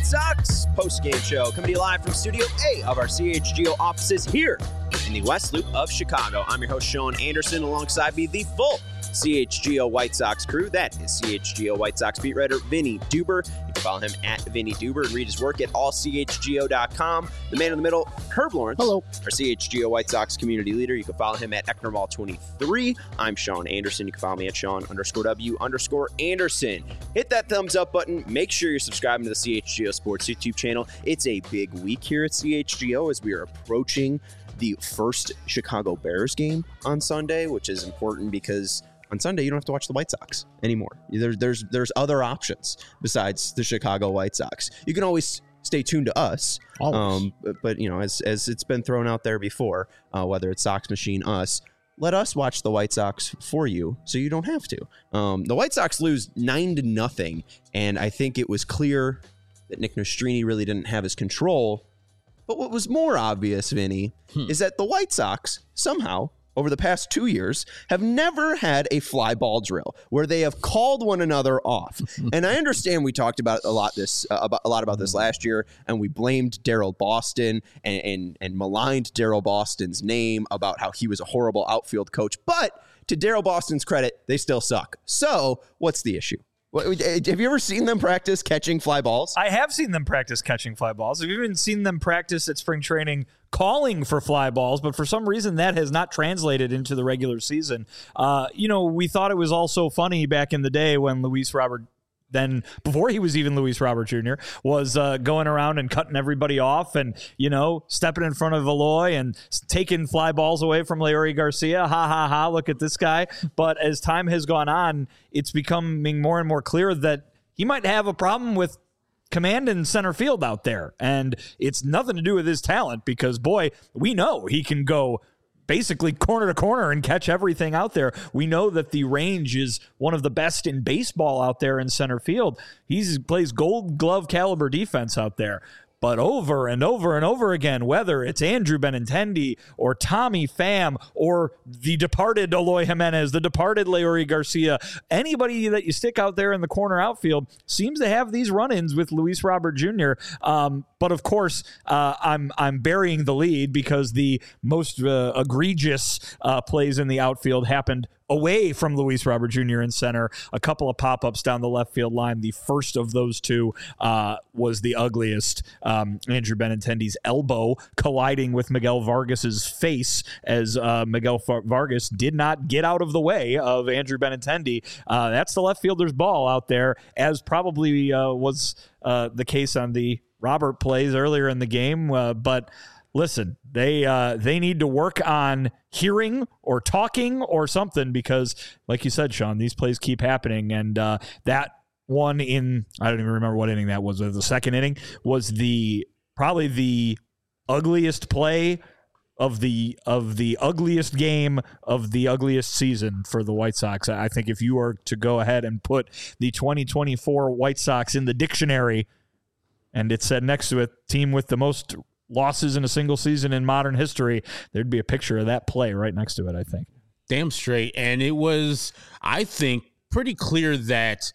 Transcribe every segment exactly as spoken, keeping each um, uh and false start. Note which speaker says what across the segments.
Speaker 1: Sox post-game show coming to you live from Studio A of our C H G O offices here in the West Loop of Chicago. I'm your host, Sean Anderson, alongside me, the full C H G O White Sox crew. That is C H G O White Sox beat writer Vinny Duber. You can follow him at Vinny Duber and read his work at all c h g o dot com. The man in the middle, Herb Lawrence.
Speaker 2: Hello.
Speaker 1: Our C H G O White Sox community leader. You can follow him at Ecknermall twenty-three. I'm Sean Anderson. You can follow me at Sean underscore W underscore Anderson. Hit that thumbs up button. Make sure you're subscribing to the C H G O Sports YouTube channel. It's a big week here at C H G O as we are approaching the first Chicago Bears game on Sunday, which is important because on Sunday, you don't have to watch the White Sox anymore. There, there's there's other options besides the Chicago White Sox. You can always stay tuned to us. Um, but, but, you know, as as it's been thrown out there before, uh, whether it's Sox Machine, us, let us watch the White Sox for you so you don't have to. Um, the White Sox lose nine to nothing, and I think it was clear that Nick Nastrini really didn't have his control. But what was more obvious, Vinny, hmm. is that the White Sox somehow, over the past two years, have never had a fly ball drill where they have called one another off. And I understand we talked about a lot this uh, about a lot about this last year, and we blamed Daryl Boston and and, and maligned Daryl Boston's name about how he was a horrible outfield coach. But to Daryl Boston's credit, they still suck. So what's the issue? Have you ever seen them practice catching fly balls?
Speaker 3: I have seen them practice catching fly balls. I've even seen them practice at spring training calling for fly balls, but for some reason that has not translated into the regular season. Uh, you know, we thought it was all so funny back in the day when Luis Robert, then before he was even Luis Robert Junior, was uh, going around and cutting everybody off and, you know, stepping in front of Eloy and taking fly balls away from Leury Garcia. Ha, ha, ha, look at this guy. But as time has gone on, it's becoming more and more clear that he might have a problem with command in center field out there. And it's nothing to do with his talent because, boy, we know he can go basically corner to corner and catch everything out there. We know that the range is one of the best in baseball out there in center field. He plays gold glove caliber defense out there. But over and over and over again, whether it's Andrew Benintendi or Tommy Pham or the departed Eloy Jimenez, the departed Leury Garcia, anybody that you stick out there in the corner outfield seems to have these run-ins with Luis Robert Junior Um, but of course, uh, I'm I'm burying the lead because the most uh, egregious uh, plays in the outfield happened away from Luis Robert Junior in center. A couple of pop-ups down the left field line. The first of those two uh, was the ugliest. Um, Andrew Benintendi's elbow colliding with Miguel Vargas's face as uh, Miguel Vargas did not get out of the way of Andrew Benintendi. Uh, that's the left fielder's ball out there, as probably uh, was uh, the case on the Robert plays earlier in the game. Uh, but listen, they uh, they need to work on hearing or talking or something because, like you said, Sean, these plays keep happening. And uh, that one in, I don't even remember what inning that was. The second inning was the probably the ugliest play of the of the ugliest game of the ugliest season for the White Sox. I think if you were to go ahead and put the twenty twenty-four White Sox in the dictionary and it said next to it, team with the most losses in a single season in modern history, there'd be a picture of that play right next to it, I think.
Speaker 2: Damn straight. And it was, I think, pretty clear that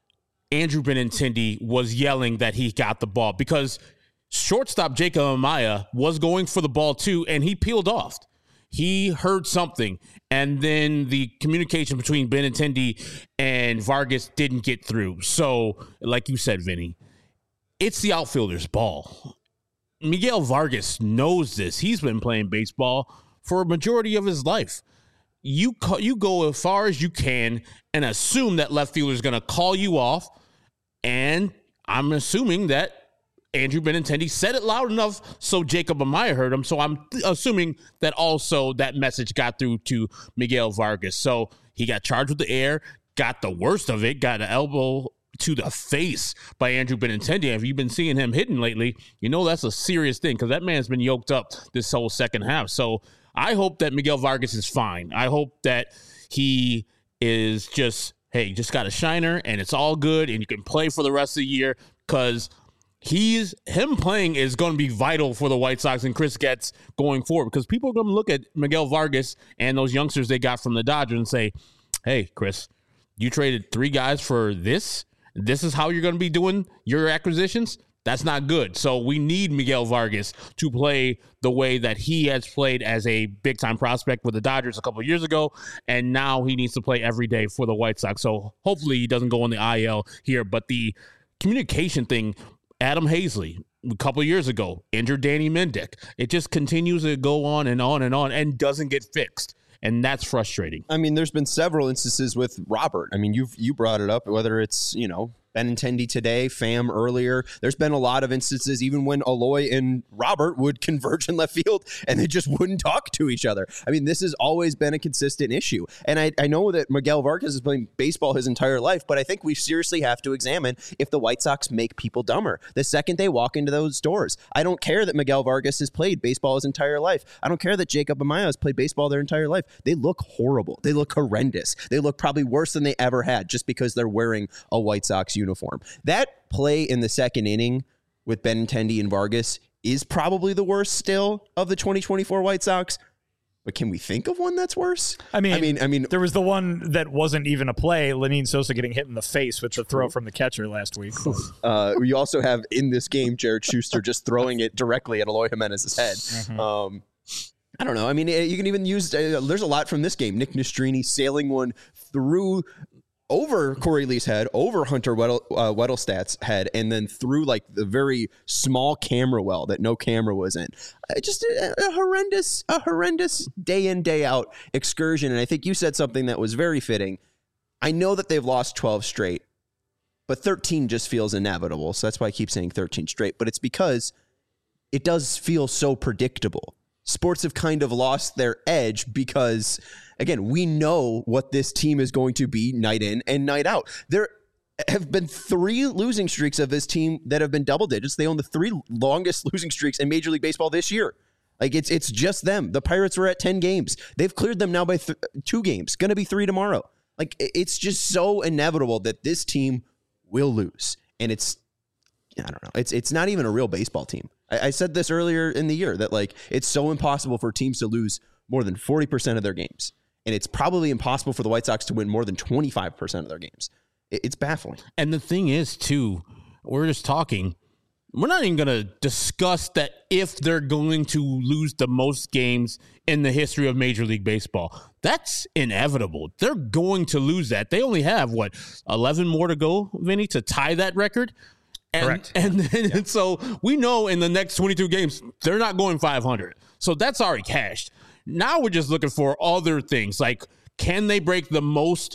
Speaker 2: Andrew Benintendi was yelling that he got the ball because shortstop Jacob Amaya was going for the ball too, and he peeled off. He heard something, and then the communication between Benintendi and Vargas didn't get through. So, like you said, Vinny, it's the outfielder's ball. Miguel Vargas knows this. He's been playing baseball for a majority of his life. You call, you go as far as you can and assume that left fielder is going to call you off, and I'm assuming that Andrew Benintendi said it loud enough so Jacob Amaya heard him, so I'm th- assuming that also that message got through to Miguel Vargas. So he got charged with the air, got the worst of it, got an elbow to the face by Andrew Benintendi. If you've been seeing him hitting lately, you know that's a serious thing because that man's been yoked up this whole second half. So I hope that Miguel Vargas is fine. I hope that he is just, hey, just got a shiner and it's all good and you can play for the rest of the year because he's him playing is going to be vital for the White Sox and Chris Getz going forward because people are going to look at Miguel Vargas and those youngsters they got from the Dodgers and say, hey, Chris, you traded three guys for this? This is how you're going to be doing your acquisitions? That's not good. So we need Miguel Vargas to play the way that he has played as a big-time prospect with the Dodgers a couple of years ago, and now he needs to play every day for the White Sox. So hopefully he doesn't go on the I L here. But the communication thing, Adam Hazley, a couple of years ago, injured Danny Mendick. It just continues to go on and on and on and doesn't get fixed. And that's frustrating.
Speaker 1: I mean, there's been several instances with Robert. I mean, you've you brought it up, whether it's, you know, Benintendi today, Pham earlier. There's been a lot of instances, even when Eloy and Robert would converge in left field and they just wouldn't talk to each other. I mean, this has always been a consistent issue. And I, I know that Miguel Vargas has played baseball his entire life, but I think we seriously have to examine if the White Sox make people dumber the second they walk into those doors. I don't care that Miguel Vargas has played baseball his entire life. I don't care that Jacob Amaya has played baseball their entire life. They look horrible. They look horrendous. They look probably worse than they ever had just because they're wearing a White Sox uniform. That play in the second inning with Benintendi and Vargas is probably the worst still of the twenty twenty-four White Sox. But can we think of one that's worse?
Speaker 3: I mean,
Speaker 1: I mean, I mean,
Speaker 3: there was the one that wasn't even a play, Lenyn Sosa getting hit in the face with the throw from the catcher last week.
Speaker 1: uh, we also have in this game Jared Schuster just throwing it directly at Eloy Jimenez's head. Mm-hmm. Um, I don't know. I mean, you can even use, uh, there's a lot from this game. Nick Nastrini sailing one through over Corey Lee's head, over Hunter Weddle, uh, Weddlestad's head, and then through like the very small camera well that no camera was in. Uh, just a, a horrendous, a horrendous day in, day out excursion. And I think you said something that was very fitting. I know that they've lost twelve straight, but thirteen just feels inevitable. So that's why I keep saying thirteen straight. But it's because it does feel so predictable. Sports have kind of lost their edge because, again, we know what this team is going to be night in and night out. There have been three losing streaks of this team that have been double digits. They own the three longest losing streaks in Major League Baseball this year. Like, it's it's just them. The Pirates were at ten games. They've cleared them now by th- two games. Going to be three tomorrow. Like, it's just so inevitable that this team will lose. And it's, I don't know, it's it's not even a real baseball team. I said this earlier in the year that, like, it's so impossible for teams to lose more than forty percent of their games. And it's probably impossible for the White Sox to win more than twenty-five percent of their games. It's baffling.
Speaker 2: And the thing is, too, we're just talking. We're not even going to discuss that if they're going to lose the most games in the history of Major League Baseball. That's inevitable. They're going to lose that. They only have, what, eleven more to go, Vinny, to tie that record? And,
Speaker 3: Correct.
Speaker 2: And, then, yeah. and so we know in the next twenty-two games, they're not going five hundred. So that's already cashed. Now we're just looking for other things. Like, can they break the most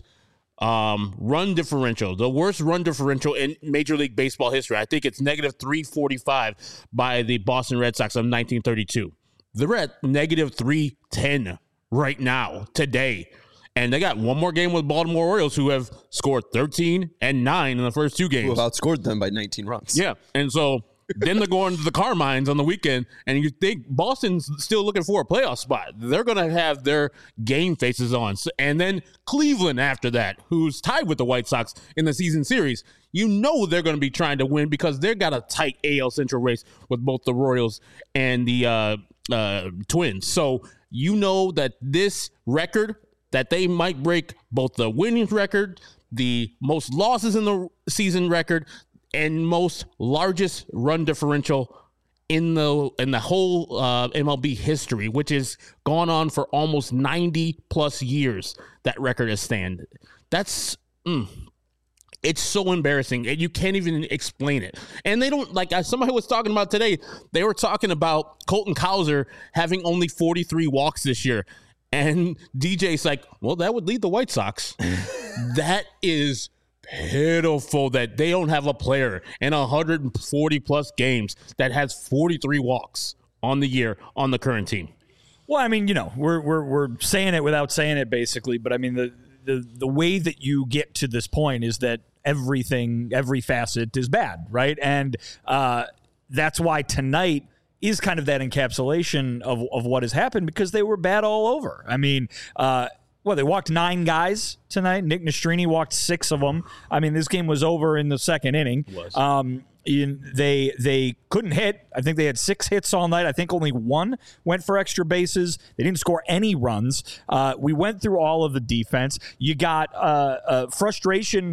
Speaker 2: um, run differential, the worst run differential in Major League Baseball history? I think it's negative three forty-five by the Boston Red Sox of nineteen thirty-two. They're at negative three ten right now, today. And they got one more game with Baltimore Orioles, who have scored thirteen and nine in the first two games.
Speaker 1: Who have outscored them by nineteen runs.
Speaker 2: Yeah. And so then they're going to the Carmines on the weekend, and you think Boston's still looking for a playoff spot. They're going to have their game faces on. And then Cleveland after that, who's tied with the White Sox in the season series. You know they're going to be trying to win because they've got a tight A L Central race with both the Royals and the uh, uh, Twins. So you know that this record, that they might break both the winning record, the most losses in the season record, and most largest run differential in the in the whole uh, M L B history, which has gone on for almost ninety plus years. That record has stand. That's mm, it's so embarrassing, and you can't even explain it. And they don't, like somebody was talking about today. They were talking about Colton Cowser having only forty-three walks this year. And D J's like, well, that would lead the White Sox. That is pitiful that they don't have a player in one hundred forty plus games that has forty-three walks on the year on the current team.
Speaker 3: Well, I mean, you know, we're we're we're saying it without saying it, basically. But I mean, the the the way that you get to this point is that everything, every facet is bad, right? And uh, that's why tonight is kind of that encapsulation of, of what has happened, because they were bad all over. I mean, uh, well, they walked nine guys tonight. Nick Nastrini walked six of them. I mean, this game was over in the second inning.
Speaker 2: It was.
Speaker 3: Um, in, they they couldn't hit. I think they had six hits all night. I think only one went for extra bases. They didn't score any runs. Uh, we went through all of the defense. You got uh, uh, frustration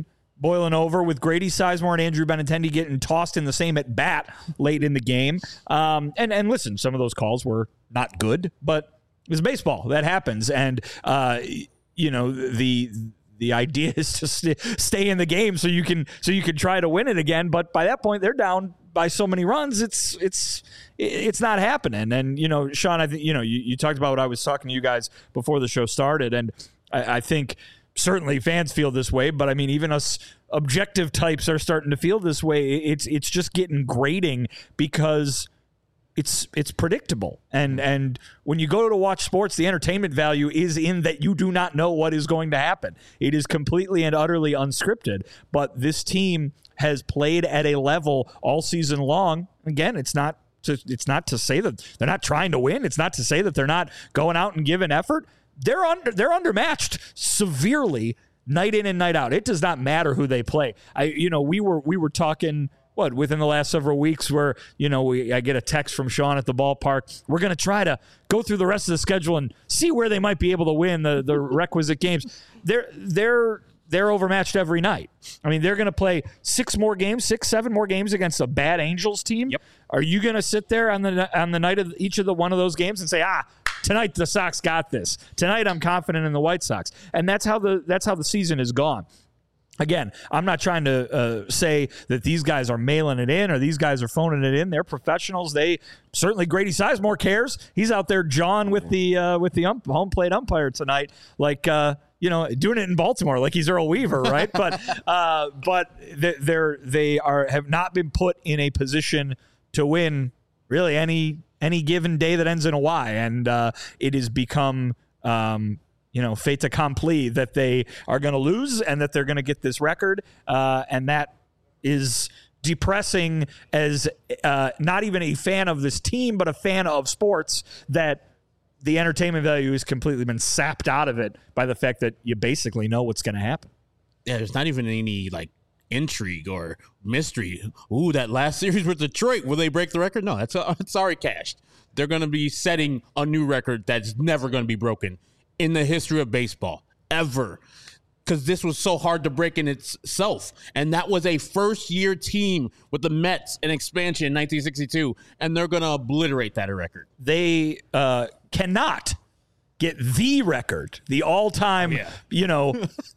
Speaker 3: boiling over with Grady Sizemore and Andrew Benintendi getting tossed in the same at bat late in the game. Um, and, and listen, some of those calls were not good, but it was baseball. That happens. And, uh, you know, the the idea is to st- stay in the game so you can so you can try to win it again. But by that point, they're down by so many runs, it's it's it's not happening. And, you know, Sean, I think, you know, you, you talked about what I was talking to you guys before the show started, and I, I think certainly fans feel this way, but I mean, even us objective types are starting to feel this way. It's it's just getting grating because it's it's predictable. And and when you go to watch sports, the entertainment value is in that you do not know what is going to happen. It is completely and utterly unscripted. But this team has played at a level all season long. Again, it's not to, it's not to say that they're not trying to win. It's not to say that they're not going out and giving effort. They're under they're undermatched severely night in and night out. It does not matter who they play. I you know, we were we were talking what within the last several weeks where, you know, we I get a text from Sean at the ballpark. We're going to try to go through the rest of the schedule and see where they might be able to win the the requisite games. They're they're They're overmatched every night. I mean, they're going to play six more games, six, seven more games against a bad Angels team. Yep. Are you going to sit there on the on the night of each of the one of those games and say, ah, tonight the Sox got this. Tonight I'm confident in the White Sox, and that's how the that's how the season is gone. Again, I'm not trying to uh, say that these guys are mailing it in or these guys are phoning it in. They're professionals. They certainly Grady Sizemore cares. He's out there jawing with the uh, with the ump, home plate umpire tonight, like. Uh, You know, doing it in Baltimore like he's Earl Weaver, right? but uh, but they're they are have not been put in a position to win really any any given day that ends in a Y, and uh, it has become um, you know fait accompli that they are going to lose and that they're going to get this record, uh, and that is depressing as uh, not even a fan of this team, but a fan of sports that. The entertainment value has completely been sapped out of it by the fact that you basically know what's going to happen.
Speaker 2: Yeah, there's not even any like intrigue or mystery. Ooh, that last series with Detroit, will they break the record? No, that's uh, it's already cashed. They're going to be setting a new record that's never going to be broken in the history of baseball ever. Because this was so hard to break in itself. And that was a first-year team with the Mets in expansion in nineteen sixty-two, and they're going to obliterate that record.
Speaker 3: They uh, cannot get the record, the all-time, yeah. you know,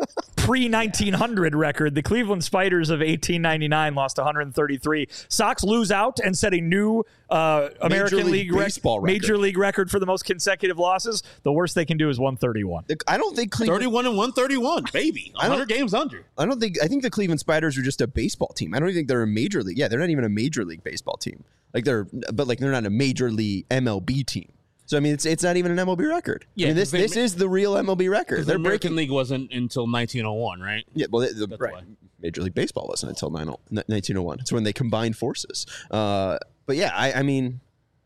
Speaker 3: pre nineteen hundred record. The Cleveland Spiders of eighteen ninety-nine lost one hundred thirty-three. Sox lose out and set a new uh, American Major League, League baseball rec- Major League record for the most consecutive losses. The worst they can do is one thirty-one.
Speaker 1: I don't think Cleveland
Speaker 2: thirty-one and one thirty-one, baby. one hundred games under.
Speaker 1: I don't think I think the Cleveland Spiders are just a baseball team. I don't even think they're a major league. Yeah, they're not even a major league baseball team. Like they're but like they're not a major league M L B team. So, I mean, it's it's not even an M L B record. Yeah, I mean, this they, this is the real M L B record.
Speaker 2: The American breaking, League wasn't until nineteen oh one, right?
Speaker 1: Yeah, well, the, the, right. Major League Baseball wasn't until nineteen oh one. It's when they combined forces. Uh, but, yeah, I, I mean,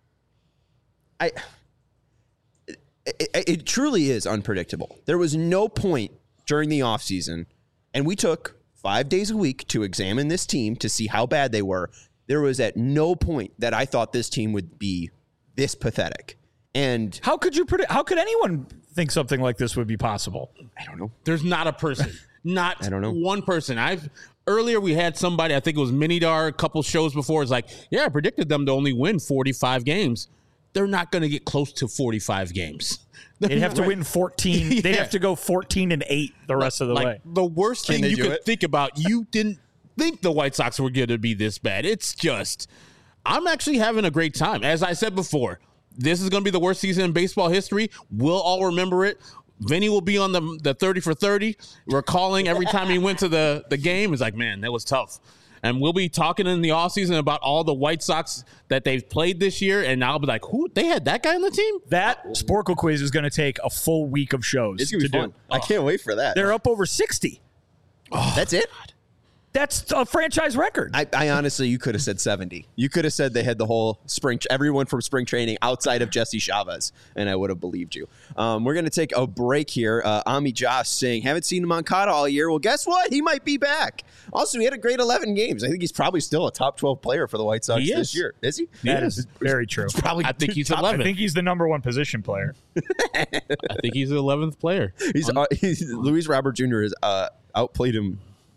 Speaker 1: I it, it, it truly is unpredictable. There was no point during the offseason, and we took five days a week to examine this team to see how bad they were. There was at no point that I thought this team would be this pathetic. And
Speaker 3: how could you predict? How could anyone think something like this would be possible?
Speaker 1: I don't know.
Speaker 2: There's not a person, not
Speaker 1: I don't know.
Speaker 2: one person. I've earlier we had somebody. I think it was Minidar a couple shows before. It's like, yeah, I predicted them to only win forty-five games. They're not going to get close to forty-five games.
Speaker 3: They'd have to win fourteen. yeah. They'd have to go fourteen and eight the rest of the
Speaker 2: like,
Speaker 3: way.
Speaker 2: The worst
Speaker 1: Can
Speaker 2: thing you could
Speaker 1: it?
Speaker 2: think about. You didn't think the White Sox were going to be this bad. It's just, I'm actually having a great time. As I said before. This is going to be the worst season in baseball history. We'll all remember it. Vinny will be on the the thirty for thirty, recalling every time he went to the, the game. It's like, man, that was tough. And we'll be talking in the offseason about all the White Sox that they've played this year. And I'll be like, who? They had that guy on the team?
Speaker 3: That Sporkle quiz is going to take a full week of shows
Speaker 1: it's gonna
Speaker 3: to
Speaker 1: be fun.
Speaker 3: do.
Speaker 1: I can't wait for that.
Speaker 3: They're up over sixty.
Speaker 1: Oh, That's it?
Speaker 3: God. That's a franchise record.
Speaker 1: I, I honestly, you could have said seventy. You could have said they had the whole spring, everyone from spring training outside of Jesse Chavez, and I would have believed you. Um, we're going to take a break here. Uh, Ami Josh saying, haven't seen Moncada all year. Well, guess what? He might be back. Also, he had a great eleven games. I think he's probably still a top twelve player for the White Sox
Speaker 2: he
Speaker 1: this
Speaker 2: is.
Speaker 1: year. Is he?
Speaker 3: That is very true.
Speaker 1: It's probably
Speaker 2: I think he's
Speaker 3: top,
Speaker 2: eleventh.
Speaker 3: I think he's the number one position player.
Speaker 2: I think he's the eleventh player.
Speaker 1: He's, uh, he's Luis Robert Junior has uh, outplayed him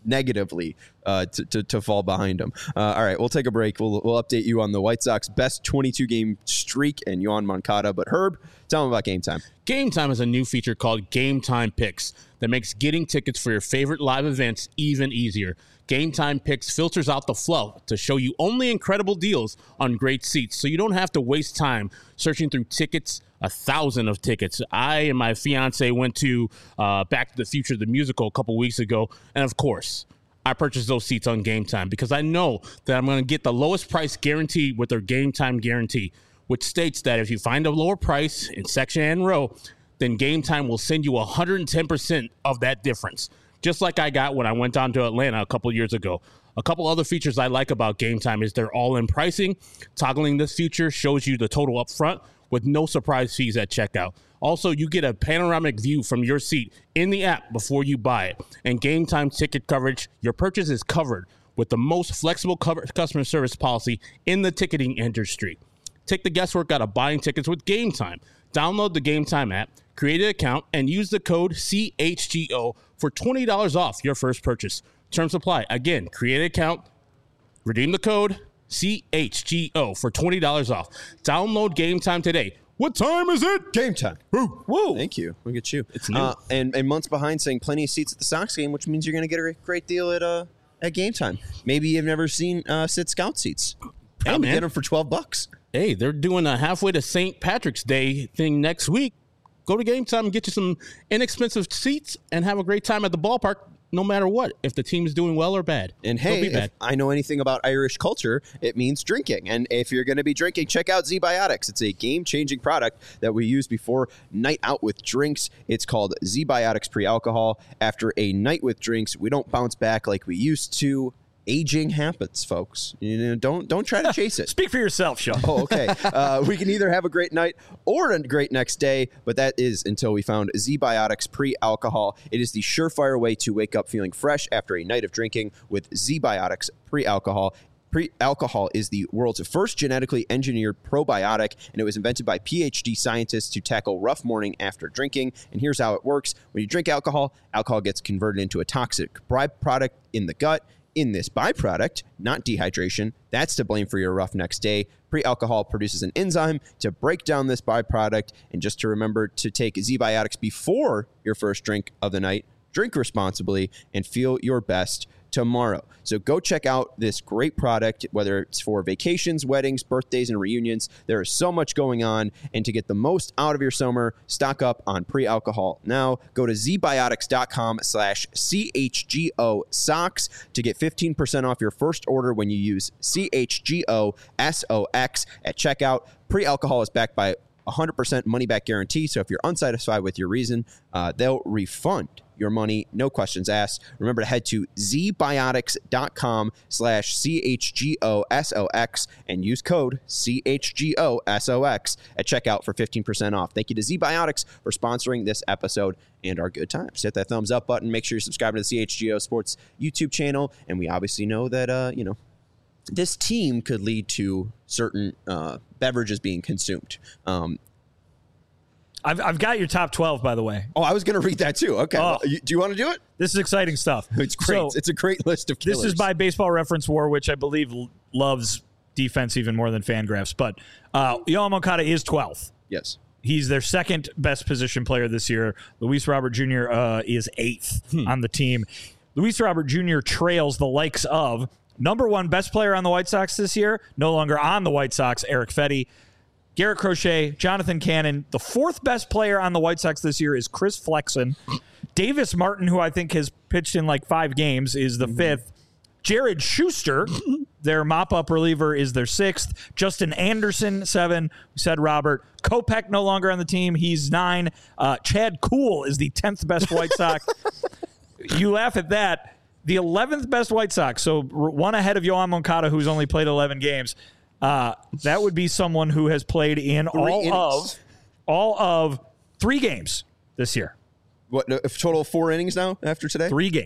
Speaker 1: negatively uh, to, to, to fall behind them. Uh, all right, we'll take a break. We'll, we'll update you on the White Sox best twenty-two game streak and Yoan Moncada. But Herb, tell them about Game Time.
Speaker 2: Game Time is a new feature called Game Time Picks that makes getting tickets for your favorite live events even easier. Game Time Picks filters out the fluff to show you only incredible deals on great seats, so you don't have to waste time searching through tickets, a thousand of tickets. I and my fiance went to uh, Back to the Future, the musical, a couple weeks ago, and of course, I purchased those seats on Game Time because I know that I'm going to get the lowest price guaranteed with their Game Time guarantee, which states that if you find a lower price in section and row, then Game Time will send you one hundred ten percent of that difference, just like I got when I went down to Atlanta a couple years ago. A couple other features I like about Game Time is they're all-in pricing. Toggling this feature shows you the total up front with no surprise fees at checkout. Also, you get a panoramic view from your seat in the app before you buy it. And Game Time ticket coverage, your purchase is covered with the most flexible cover- customer service policy in the ticketing industry. Take the guesswork out of buying tickets with Game Time. Download the Game Time app, create an account, and use the code C H G O for twenty dollars off your first purchase. Terms apply. Again, create an account, redeem the code C H G O for twenty dollars off. Download Game Time today. What time is it?
Speaker 1: Game time.
Speaker 2: Woo.
Speaker 1: Woo. Thank you. Look at you.
Speaker 2: It's new.
Speaker 1: Uh, and, and months behind saying plenty of seats at the Sox game, which means you're going to get a great deal at uh, at Game Time. Maybe you've never seen uh, Sit Scout seats.
Speaker 2: Hey,
Speaker 1: Probably
Speaker 2: man.
Speaker 1: get them for twelve bucks.
Speaker 2: Hey, they're doing a halfway to Saint Patrick's Day thing next week. Go to Game Time and get you some inexpensive seats and have a great time at the ballpark, no matter what, if the team is doing well or bad.
Speaker 1: And
Speaker 2: Don't
Speaker 1: hey,
Speaker 2: be bad.
Speaker 1: if I know anything about Irish culture, it means drinking. And if you're going to be drinking, check out Z-Biotics. It's a game-changing product that we use before night out with drinks. It's called Z-Biotics Pre-Alcohol. After a night with drinks, we don't bounce back like we used to. Aging happens, folks. You know, don't don't try to chase it.
Speaker 3: Speak for yourself, Sean.
Speaker 1: Oh, okay. Uh, we can either have a great night or a great next day, but that is until we found Z-Biotics Pre-Alcohol. It is the surefire way to wake up feeling fresh after a night of drinking with Z-Biotics Pre-Alcohol. Pre-alcohol is the world's first genetically engineered probiotic, and it was invented by P H D scientists to tackle rough morning after drinking. And here's how it works. When you drink alcohol, alcohol gets converted into a toxic byproduct in the gut. In this byproduct, not dehydration, that's to blame for your rough next day. Pre-alcohol produces an enzyme to break down this byproduct. And just to remember to take Z-Biotics before your first drink of the night, drink responsibly, and feel your best tomorrow. So go check out this great product, whether it's for vacations, weddings, birthdays, and reunions. There is so much going on. And to get the most out of your summer, stock up on pre-alcohol now. Go to zbiotics.com slash CHGO socks to get fifteen percent off your first order when you use C H G O S O X at checkout. Pre-alcohol is backed by one hundred percent money-back guarantee. So if you're unsatisfied with your reason, uh, they'll refund your money, no questions asked. Remember to head to zbiotics.com slash CHGOSOX and use code CHGOSOX at checkout for fifteen percent off. Thank you to ZBiotics for sponsoring this episode and our good times. Hit that thumbs up button. Make sure you're subscribing to the C H G O Sports YouTube channel. And we obviously know that, uh, you know, this team could lead to certain uh, beverages being consumed. Um,
Speaker 3: I've, I've got your top twelve, by the way.
Speaker 1: oh, I was going to read that too. Okay.
Speaker 3: Oh.
Speaker 1: Well, you, do you want to do it?
Speaker 3: This is exciting stuff.
Speaker 1: It's great.
Speaker 3: So,
Speaker 1: it's a great list of killers.
Speaker 3: this is by Baseball Reference War, which I believe l- loves defense even more than Fangraphs. But uh, Yoan Moncada is twelfth.
Speaker 1: Yes.
Speaker 3: He's their second best position player this year. Luis Robert Junior Uh, is eighth hmm. on the team. Luis Robert Junior trails the likes of number one best player on the White Sox this year, no longer on the White Sox, Erick Fedde, Garrett Crochet, Jonathan Cannon. The fourth best player on the White Sox this year is Chris Flexen. Davis Martin, who I think has pitched in like five games, is the mm-hmm. fifth. Jared Schuster, their mop-up reliever, is their sixth. Justin Anderson, seven. We said Robert. Kopech no longer on the team. He's nine. Uh, Chad Kuhl is the tenth best White Sox. You laugh at that. The eleventh best White Sox, so one ahead of Yoan Moncada, who's only played eleven games. Uh, that would be someone who has played in
Speaker 1: Three
Speaker 3: all
Speaker 1: innings.
Speaker 3: of all of three games this year.
Speaker 1: What, a total of four innings now after today?
Speaker 3: Three games.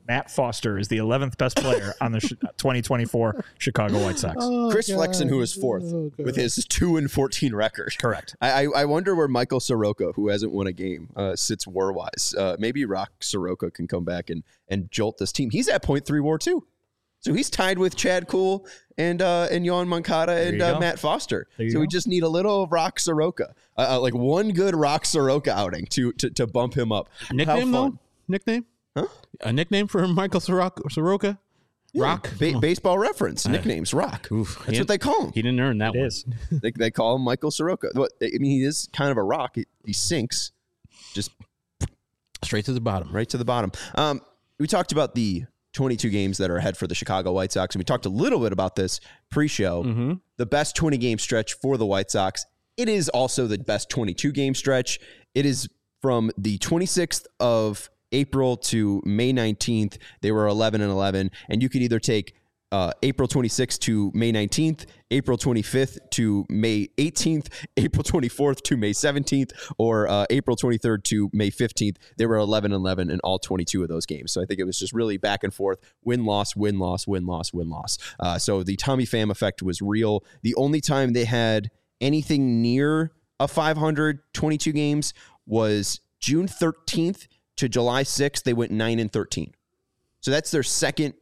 Speaker 3: Matt Foster is the eleventh best player on the twenty twenty-four Chicago White Sox.
Speaker 1: Oh, Chris God. Flexen, who is fourth oh, with his two and fourteen record.
Speaker 3: Correct.
Speaker 1: I, I wonder where Michael Soroka, who hasn't won a game, uh, sits war-wise. Uh, maybe Rock Soroka can come back and, and jolt this team. He's at point three war, too. So he's tied with Chad Kuhl and uh, and Yohan Moncada and uh, Matt Foster. So go. we just need a little Rock Soroka, uh, uh, like one good Rock Soroka outing to to, to bump him up.
Speaker 2: Nickname, though? Nickname?
Speaker 1: Huh?
Speaker 2: A nickname for Michael Soroka? Soroka?
Speaker 1: Yeah.
Speaker 2: Rock?
Speaker 1: Ba- baseball reference. Nicknames, Rock. Oof. That's what they call him.
Speaker 2: He didn't earn that
Speaker 3: it
Speaker 2: one.
Speaker 3: Is.
Speaker 1: they, they call him Michael Soroka. What, I mean, he is kind of a rock. He, he sinks just
Speaker 2: straight to the bottom.
Speaker 1: Right to the bottom. Um, we talked about the twenty-two games that are ahead for the Chicago White Sox, and we talked a little bit about this pre-show.
Speaker 2: Mm-hmm.
Speaker 1: The best twenty-game stretch for the White Sox. It is also the best twenty-two game stretch. It is from the twenty-sixth of April to May nineteenth. They were eleven and eleven, and you could either take uh, April twenty-sixth to May nineteenth, April twenty-fifth to May eighteenth, April twenty-fourth to May seventeenth, or uh, April twenty-third to May fifteenth. They were eleven and eleven in all twenty-two of those games. So I think it was just really back and forth, win-loss, win-loss, win-loss, win-loss. Uh, so the Tommy Pham effect was real. The only time they had anything near a five hundred twenty-two games was June thirteenth to July sixth. They went nine and thirteen. So that's their second,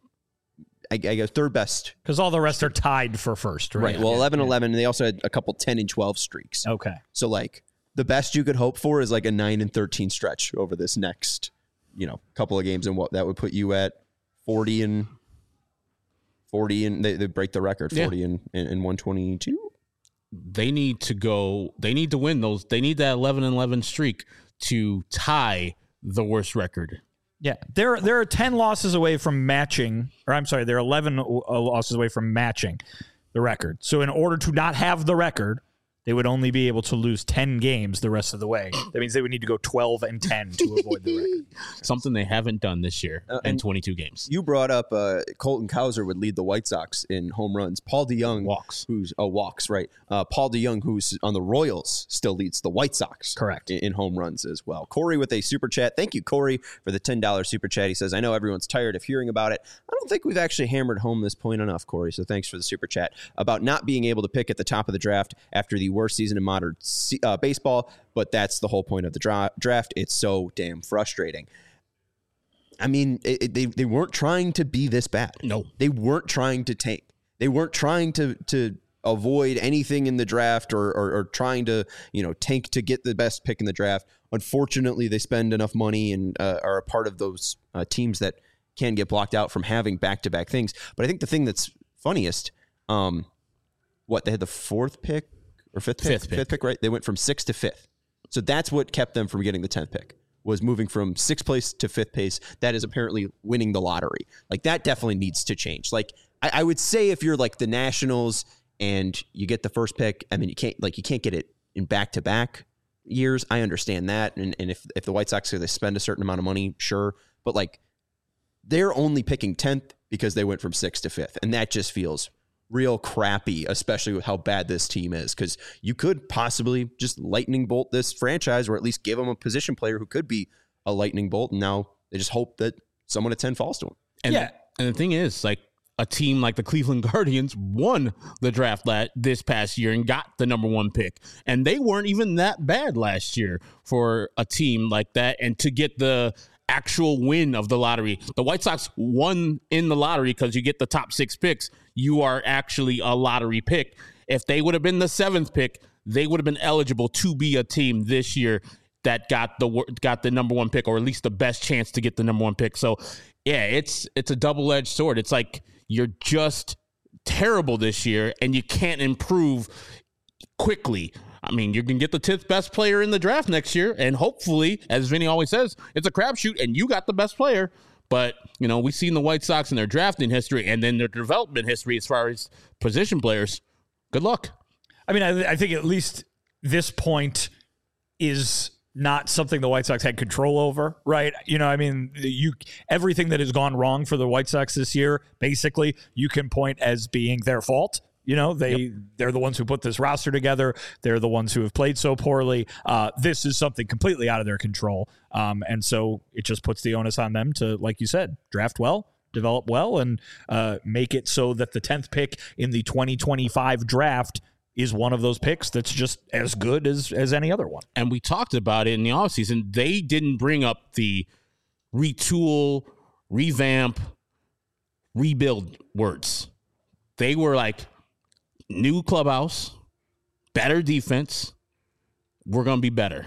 Speaker 1: I, I guess, third best.
Speaker 3: Because all the rest are tied for first, right?
Speaker 1: Right. Well, eleven eleven, and they also had a couple ten and twelve streaks.
Speaker 3: Okay.
Speaker 1: So, like, the best you could hope for is like a nine and thirteen stretch over this next, you know, couple of games, and what that would put you at forty and forty, and they, they break the record, forty yeah. and, and, and one twenty-two.
Speaker 2: They need to go, they need to win those. They need that eleven and eleven streak to tie the worst record.
Speaker 3: Yeah, they're they're ten losses away from matching, or I'm sorry, they're eleven losses away from matching the record. So in order to not have the record, they would only be able to lose ten games the rest of the way. That means they would need to go twelve and ten to avoid the record.
Speaker 2: Something they haven't done this year uh, in twenty-two games.
Speaker 1: You brought up uh, Colton Cowser would lead the White Sox in home runs. Paul DeJong
Speaker 2: walks,
Speaker 1: who's oh walks right. Uh, Paul DeJong, who's on the Royals, still leads the White Sox.
Speaker 3: Correct
Speaker 1: in, in home runs as well. Corey with a super chat. Thank you, Corey, for the ten dollars super chat. He says, "I know everyone's tired of hearing about it. I don't think we've actually hammered home this point enough, Corey. So thanks for the super chat about not being able to pick at the top of the draft after the worst season in modern Uh, baseball, but that's the whole point of the dra- draft. It's so damn frustrating. I mean, it, it, they they weren't trying to be this bad.
Speaker 2: No,
Speaker 1: they weren't trying to tank. They weren't trying to to avoid anything in the draft or, or or trying to you know tank to get the best pick in the draft. Unfortunately, they spend enough money and uh, are a part of those uh, teams that can get blocked out from having back to back things. But I think the thing that's funniest, um, what they had the fourth pick. Or fifth pick,
Speaker 2: fifth pick.
Speaker 1: fifth pick, right? They went from sixth to fifth. So that's what kept them from getting the tenth pick, was moving from sixth place to fifth place. That is apparently winning the lottery. Like, that definitely needs to change. Like, I, I would say if you're like the Nationals and you get the first pick, I mean, you can't like you can't get it in back-to-back years. I understand that. And, and if, if the White Sox they spend a certain amount of money, sure. But like, they're only picking tenth because they went from sixth to fifth. And that just feels real crappy, especially with how bad this team is, because you could possibly just lightning bolt this franchise, or at least give them a position player who could be a lightning bolt, and now they just hope that someone at ten falls to them.
Speaker 2: And
Speaker 3: yeah,
Speaker 2: and the thing is, like, a team like the Cleveland Guardians won the draft la- this past year and got the number one pick, and they weren't even that bad last year for a team like that, and to get the actual win of the lottery. The White Sox won in the lottery because you get the top six picks. You are actually a lottery pick. If they would have been the seventh pick, they would have been eligible to be a team this year that got the got the number one pick, or at least the best chance to get the number one pick. So, yeah, it's it's a double-edged sword. It's like you're just terrible this year, and you can't improve quickly. I mean, you can get the tenth best player in the draft next year, and hopefully, as Vinny always says, it's a crapshoot, and you got the best player. But, you know, we've seen the White Sox in their drafting history and then their development history as far as position players. Good luck.
Speaker 3: I mean, I, I think at least this point is not something the White Sox had control over, right? You know, I mean, you everything that has gone wrong for the White Sox this year, basically, you can point as being their fault. You know, they, yep. they're the ones who put this roster together. They're the ones who have played so poorly. Uh, this is something completely out of their control. Um, and so it just puts the onus on them to, like you said, draft well, develop well, and uh, make it so that the tenth pick in the twenty twenty-five draft is one of those picks that's just as good as, as any other one.
Speaker 2: And we talked about it in the offseason. They didn't bring up the retool, revamp, rebuild words. They were like, new clubhouse, better defense, we're going to be better.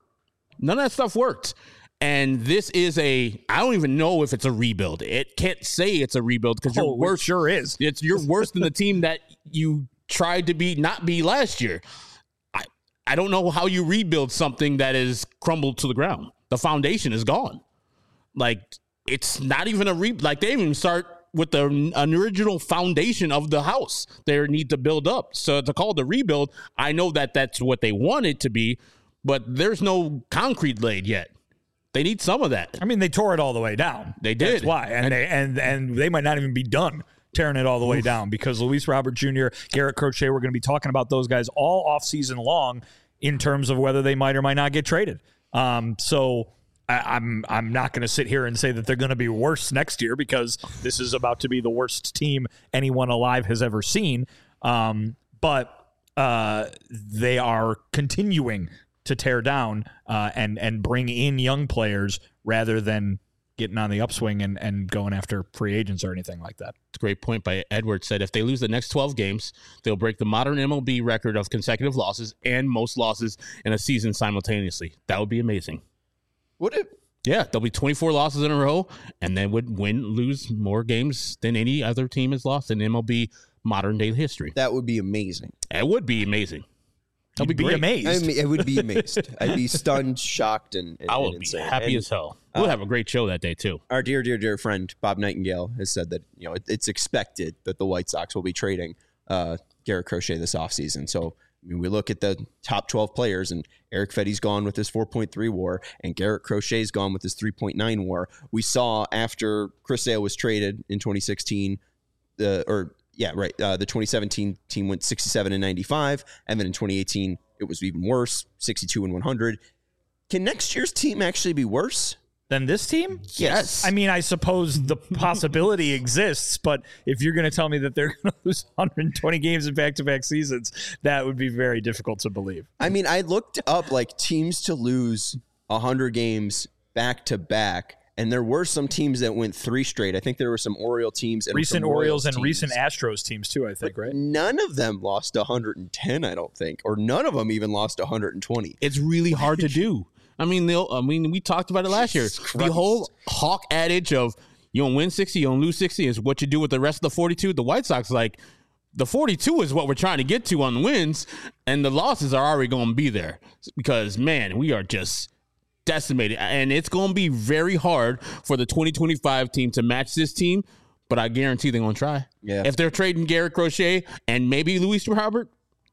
Speaker 2: None of that stuff worked. And this is a, I don't even know if it's a rebuild. It can't say it's a rebuild because
Speaker 3: oh,
Speaker 2: you're worse.
Speaker 3: It sure is.
Speaker 2: It's you're worse than the team that you tried to be, not be last year. I, I don't know how you rebuild something that is crumbled to the ground. The foundation is gone. Like, it's not even a re, like they didn't even start with the an original foundation of the house they need to build up. So to call it a rebuild, I know that that's what they want it to be, but there's no concrete laid yet. They need some of that.
Speaker 3: I mean, they tore it all the way down.
Speaker 2: They did.
Speaker 3: That's why. And, and they and and they might not even be done tearing it all the way Oof. down because Luis Robert Junior, Garrett Crochet, we're going to be talking about those guys all offseason long in terms of whether they might or might not get traded. Um, so I, I'm I'm not going to sit here and say that they're going to be worse next year because this is about to be the worst team anyone alive has ever seen. Um, but uh, they are continuing to tear down uh, and and bring in young players rather than getting on the upswing and, and going after free agents or anything like that.
Speaker 2: It's a great point by Edward. Said if they lose the next twelve games, they'll break the modern M L B record of consecutive losses and most losses in a season simultaneously. That would be amazing.
Speaker 1: Would it?
Speaker 2: Yeah, there'll be twenty-four losses in a row, and then would win, lose more games than any other team has lost in M L B modern day history.
Speaker 1: That would be amazing.
Speaker 2: It would be amazing.
Speaker 3: I'd be, be amazed.
Speaker 1: I mean, I would be amazed. I'd be stunned, shocked, and, and
Speaker 2: I would
Speaker 1: and
Speaker 2: be
Speaker 1: insane.
Speaker 2: happy
Speaker 1: and,
Speaker 2: as hell. We'll uh, have a great show that day too.
Speaker 1: Our dear, dear, dear friend Bob Nightingale has said that you know it, it's expected that the White Sox will be trading uh, Garrett Crochet this offseason. So I mean, we look at the top twelve players, and Eric Fetty's gone with his four point three WAR, and Garrett Crochet's gone with his three point nine WAR. We saw after Chris Sale was traded in twenty sixteen, the or yeah, right, uh, the twenty seventeen team went sixty-seven and ninety-five, and then in twenty eighteen it was even worse, sixty-two and one hundred. Can next year's team actually be worse
Speaker 3: than this team?
Speaker 1: Yes.
Speaker 3: I mean, I suppose the possibility exists, but if you're going to tell me that they're going to lose one hundred twenty games in back-to-back seasons, that would be very difficult to believe.
Speaker 1: I mean, I looked up like teams to lose one hundred games back-to-back, and there were some teams that went three straight. I think there were some Oriole teams. And
Speaker 3: recent
Speaker 1: Orioles,
Speaker 3: Orioles and
Speaker 1: teams.
Speaker 3: recent Astros teams too, I think,
Speaker 1: but
Speaker 3: right?
Speaker 1: None of them lost one hundred ten, I don't think, or none of them even lost one hundred twenty.
Speaker 2: It's really hard to do. I mean, they'll. I mean, we talked about it last year. The whole Hawk adage of you don't win sixty, you don't lose sixty is what you do with the rest of the forty-two. The White Sox, like, the forty-two is what we're trying to get to on the wins, and the losses are already going to be there because, man, we are just decimated. And it's going to be very hard for the twenty twenty-five team to match this team, but I guarantee they're going to try.
Speaker 1: Yeah.
Speaker 2: If they're trading Garrett Crochet and maybe Luis Robert,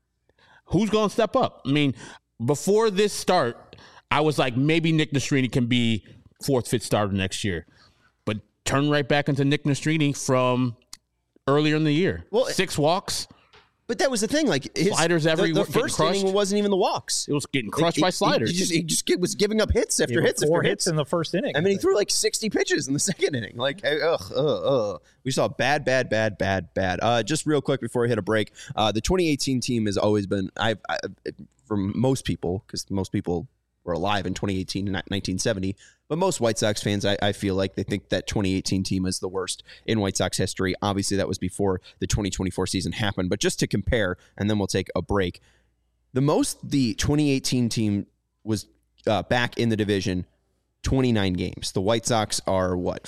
Speaker 2: who's going to step up? I mean, before this start, I was like, maybe Nick Nastrini can be fourth, fifth starter next year. But turn right back into Nick Nastrini from earlier in the year. Well, Six walks.
Speaker 1: But that was the thing. Like his,
Speaker 2: sliders every
Speaker 1: the, the first inning wasn't even the walks.
Speaker 2: It was getting crushed
Speaker 1: it,
Speaker 2: by
Speaker 1: it,
Speaker 2: sliders.
Speaker 1: He just, he just get, was giving up hits after hits
Speaker 3: four
Speaker 1: after
Speaker 3: hits
Speaker 1: hits
Speaker 3: in the first inning.
Speaker 1: I mean, he threw like sixty pitches in the second inning. Like, ugh, ugh, ugh. We saw bad, bad, bad, bad, bad. Uh, just real quick before we hit a break, uh, the twenty eighteen team has always been, I've, I, from most people, because most people were alive in twenty eighteen and nineteen seventy, but most White Sox fans, I, I feel like they think that twenty eighteen team is the worst in White Sox history. Obviously, that was before the twenty twenty-four season happened, but just to compare, and then we'll take a break. The most the twenty eighteen team was uh, back in the division, twenty-nine games. The White Sox are, what,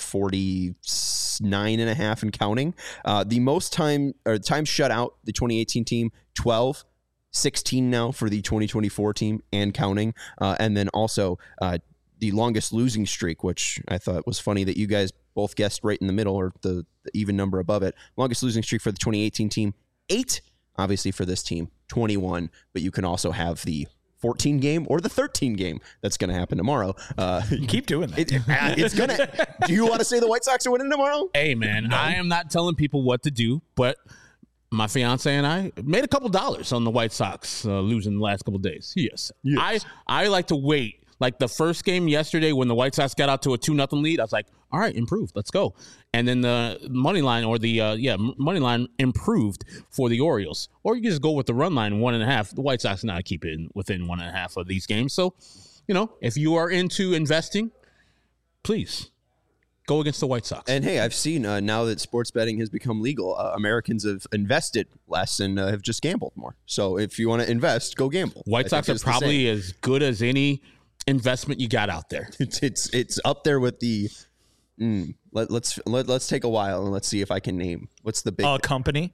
Speaker 1: forty-nine and a half and counting? Uh, the most time, or time shut out, the twenty eighteen team, twelve. sixteen now for the twenty twenty-four team and counting. Uh, and then also uh, the longest losing streak, which I thought was funny that you guys both guessed right in the middle or the, the even number above it. Longest losing streak for the twenty eighteen team, eight. Obviously for this team, twenty-one. But you can also have the fourteen game or the thirteen game that's going to happen tomorrow. Uh,
Speaker 3: you keep doing that.
Speaker 1: It, it's going to. Do you want to say the White Sox are winning tomorrow?
Speaker 2: Hey, man, no. I am not telling people what to do, but My fiance and I made a couple dollars on the White Sox uh, losing the last couple days. Yes. yes. I, I like to wait. Like the first game yesterday when the White Sox got out to a two nothing lead, I was like, all right, improved. Let's go. And then the money line or the, uh, yeah, money line improved for the Orioles. Or you can just go with the run line, one and a half. The White Sox now keep it within one and a half of these games. So, you know, if you are into investing, please go against the White Sox.
Speaker 1: And hey, I've seen uh, now that sports betting has become legal, uh, Americans have invested less and uh, have just gambled more. So if you want to invest, go gamble.
Speaker 2: White Sox are probably as good as any investment you got out there.
Speaker 1: It's it's, it's up there with the. Mm, let, let's let, let's take a while and let's see if I can name what's the big
Speaker 3: uh, company.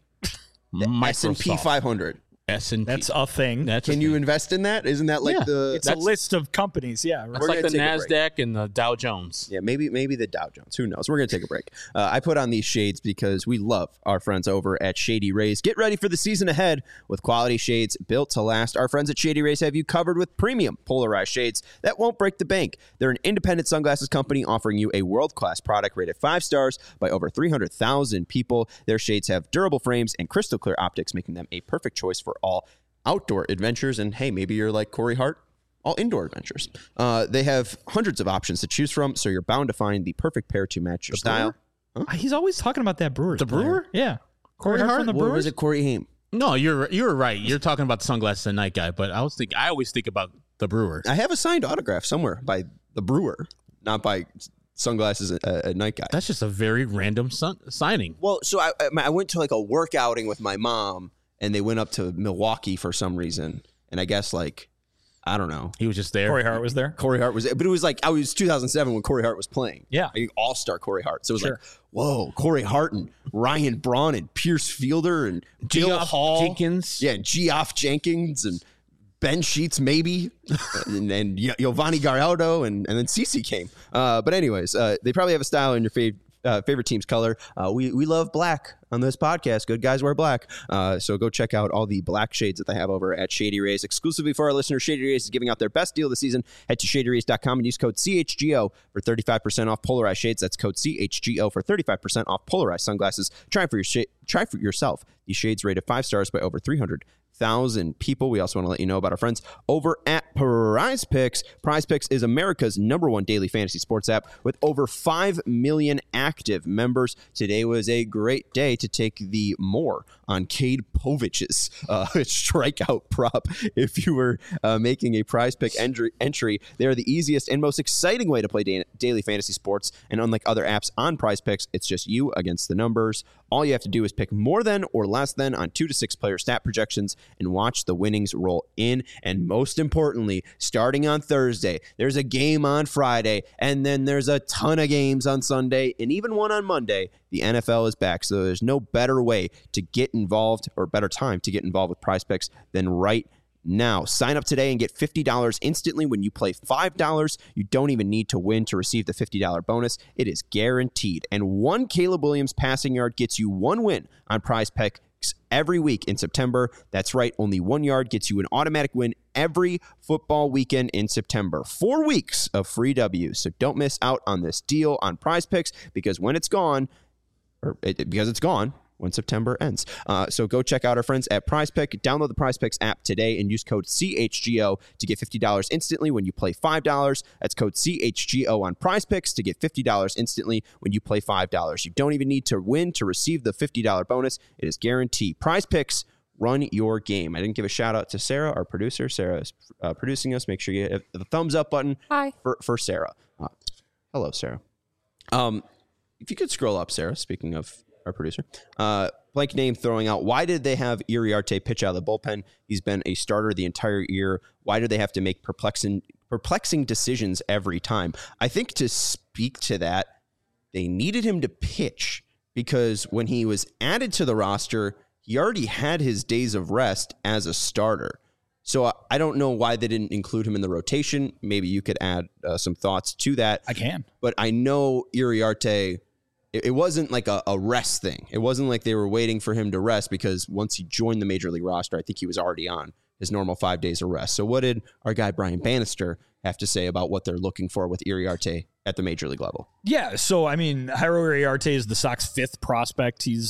Speaker 1: S and P five hundred.
Speaker 2: S and P.
Speaker 3: That's a thing.
Speaker 2: That's
Speaker 1: Can
Speaker 2: a
Speaker 1: you
Speaker 2: thing.
Speaker 1: invest in that? Isn't that like
Speaker 2: yeah,
Speaker 1: the?
Speaker 3: It's a list of companies. Yeah,
Speaker 2: it's like the NASDAQ and the Dow Jones.
Speaker 1: Yeah, maybe maybe the Dow Jones. Who knows? We're gonna take a break. Uh, I put on these shades because we love our friends over at Shady Rays. Get ready for the season ahead with quality shades built to last. Our friends at Shady Rays have you covered with premium polarized shades that won't break the bank. They're an independent sunglasses company offering you a world-class product rated five stars by over three hundred thousand people. Their shades have durable frames and crystal clear optics, making them a perfect choice for all outdoor adventures. And hey, maybe you're like Corey Hart, all indoor adventures. Uh, they have hundreds of options to choose from, so you're bound to find the perfect pair to match your
Speaker 3: the
Speaker 1: style.
Speaker 3: Huh? He's always talking about that Brewers.
Speaker 2: The
Speaker 3: player.
Speaker 2: Brewer?
Speaker 3: Yeah. Corey, Corey Hart from the
Speaker 1: Or
Speaker 3: Brewers?
Speaker 1: was it Corey Haim?
Speaker 2: No, you're you're right. You're talking about the sunglasses at night guy, but I was thinking I always think about the Brewer.
Speaker 1: I have a signed autograph somewhere by the Brewer, not by sunglasses at, at night guy.
Speaker 2: That's just a very random sun- signing.
Speaker 1: Well, so I I went to like a work outing with my mom, and they went up to Milwaukee for some reason. And I guess like, I don't know.
Speaker 2: He was just there.
Speaker 3: Corey Hart was there.
Speaker 1: Corey Hart was, but it was like, I was two thousand seven when Corey Hart was playing.
Speaker 3: Yeah.
Speaker 1: Like all-star Corey Hart. So it was
Speaker 3: Sure.
Speaker 1: like, whoa, Corey Hart and Ryan Braun and Pierce Fielder and Bill
Speaker 2: Geoff
Speaker 1: Hall.
Speaker 2: Jenkins.
Speaker 1: Yeah, Geoff Jenkins and Ben Sheets maybe, and, and Giovanni Gallardo, and, and then Cece came. Uh, but anyways, uh, they probably have a style in your fav- uh, favorite team's color. Uh, we, we love black on this podcast. Good guys wear black. Uh, so go check out all the black shades that they have over at Shady Rays. Exclusively for our listeners, Shady Rays is giving out their best deal this season. Head to shady rays dot com and use code C H G O for thirty-five percent off polarized shades. That's code C H G O for thirty-five percent off polarized sunglasses. Try for your sh- try for yourself. These shades rated five stars by over three hundred thousand people. We also want to let you know about our friends over at Prize Picks. Prize Picks is America's number one daily fantasy sports app with over five million active members. Today was a great day to take the more on Cade Povich's uh, strikeout prop. If you were uh, making a Prize Pick entry, entry, they are the easiest and most exciting way to play da- daily fantasy sports. And unlike other apps on Prize Picks, it's just you against the numbers. All you have to do is pick more than or less than on two to six player stat projections and watch the winnings roll in. And most importantly, starting on Thursday, there's a game on Friday, and then there's a ton of games on Sunday, and even one on Monday. The N F L is back, so there's no better way to get involved or better time to get involved with Prize Picks than right now. Sign up today and get fifty dollars instantly when you play five dollars. You don't even need to win to receive the fifty dollars bonus. It is guaranteed. And one Caleb Williams passing yard gets you one win on Prize Picks every week in September. That's right. Only one yard gets you an automatic win every football weekend in September. Four weeks of free W's. So don't miss out on this deal on Prize Picks because when it's gone, or it, because it's gone, when September ends. Uh, so go check out our friends at Prize Pick. Download the Prize Picks app today and use code C H G O to get fifty dollars instantly when you play five dollars. That's code C H G O on Prize Picks to get fifty dollars instantly when you play five dollars. You don't even need to win to receive the fifty dollars bonus. It is guaranteed. Prize Picks, run your game. I didn't give a shout out to Sarah, our producer. Sarah is uh, producing us. Make sure you hit the thumbs up button
Speaker 4: Hi.
Speaker 1: for, for Sarah. Uh, hello, Sarah. Um, if you could scroll up, Sarah, speaking of our producer. Uh, blank name throwing out, why did they have Iriarte pitch out of the bullpen? He's been a starter the entire year. Why do they have to make perplexing perplexing decisions every time? I think to speak to that, they needed him to pitch because when he was added to the roster, he already had his days of rest as a starter. So I don't know why they didn't include him in the rotation. Maybe you could add uh, some thoughts to that.
Speaker 3: I can.
Speaker 1: But I know Iriarte, it wasn't like a, a rest thing. It wasn't like they were waiting for him to rest because once he joined the Major League roster, I think he was already on his normal five days of rest. So what did our guy Brian Bannister have to say about what they're looking for with Iriarte at the Major League level?
Speaker 3: Yeah, so, I mean, Jairo Iriarte is the Sox fifth prospect. He's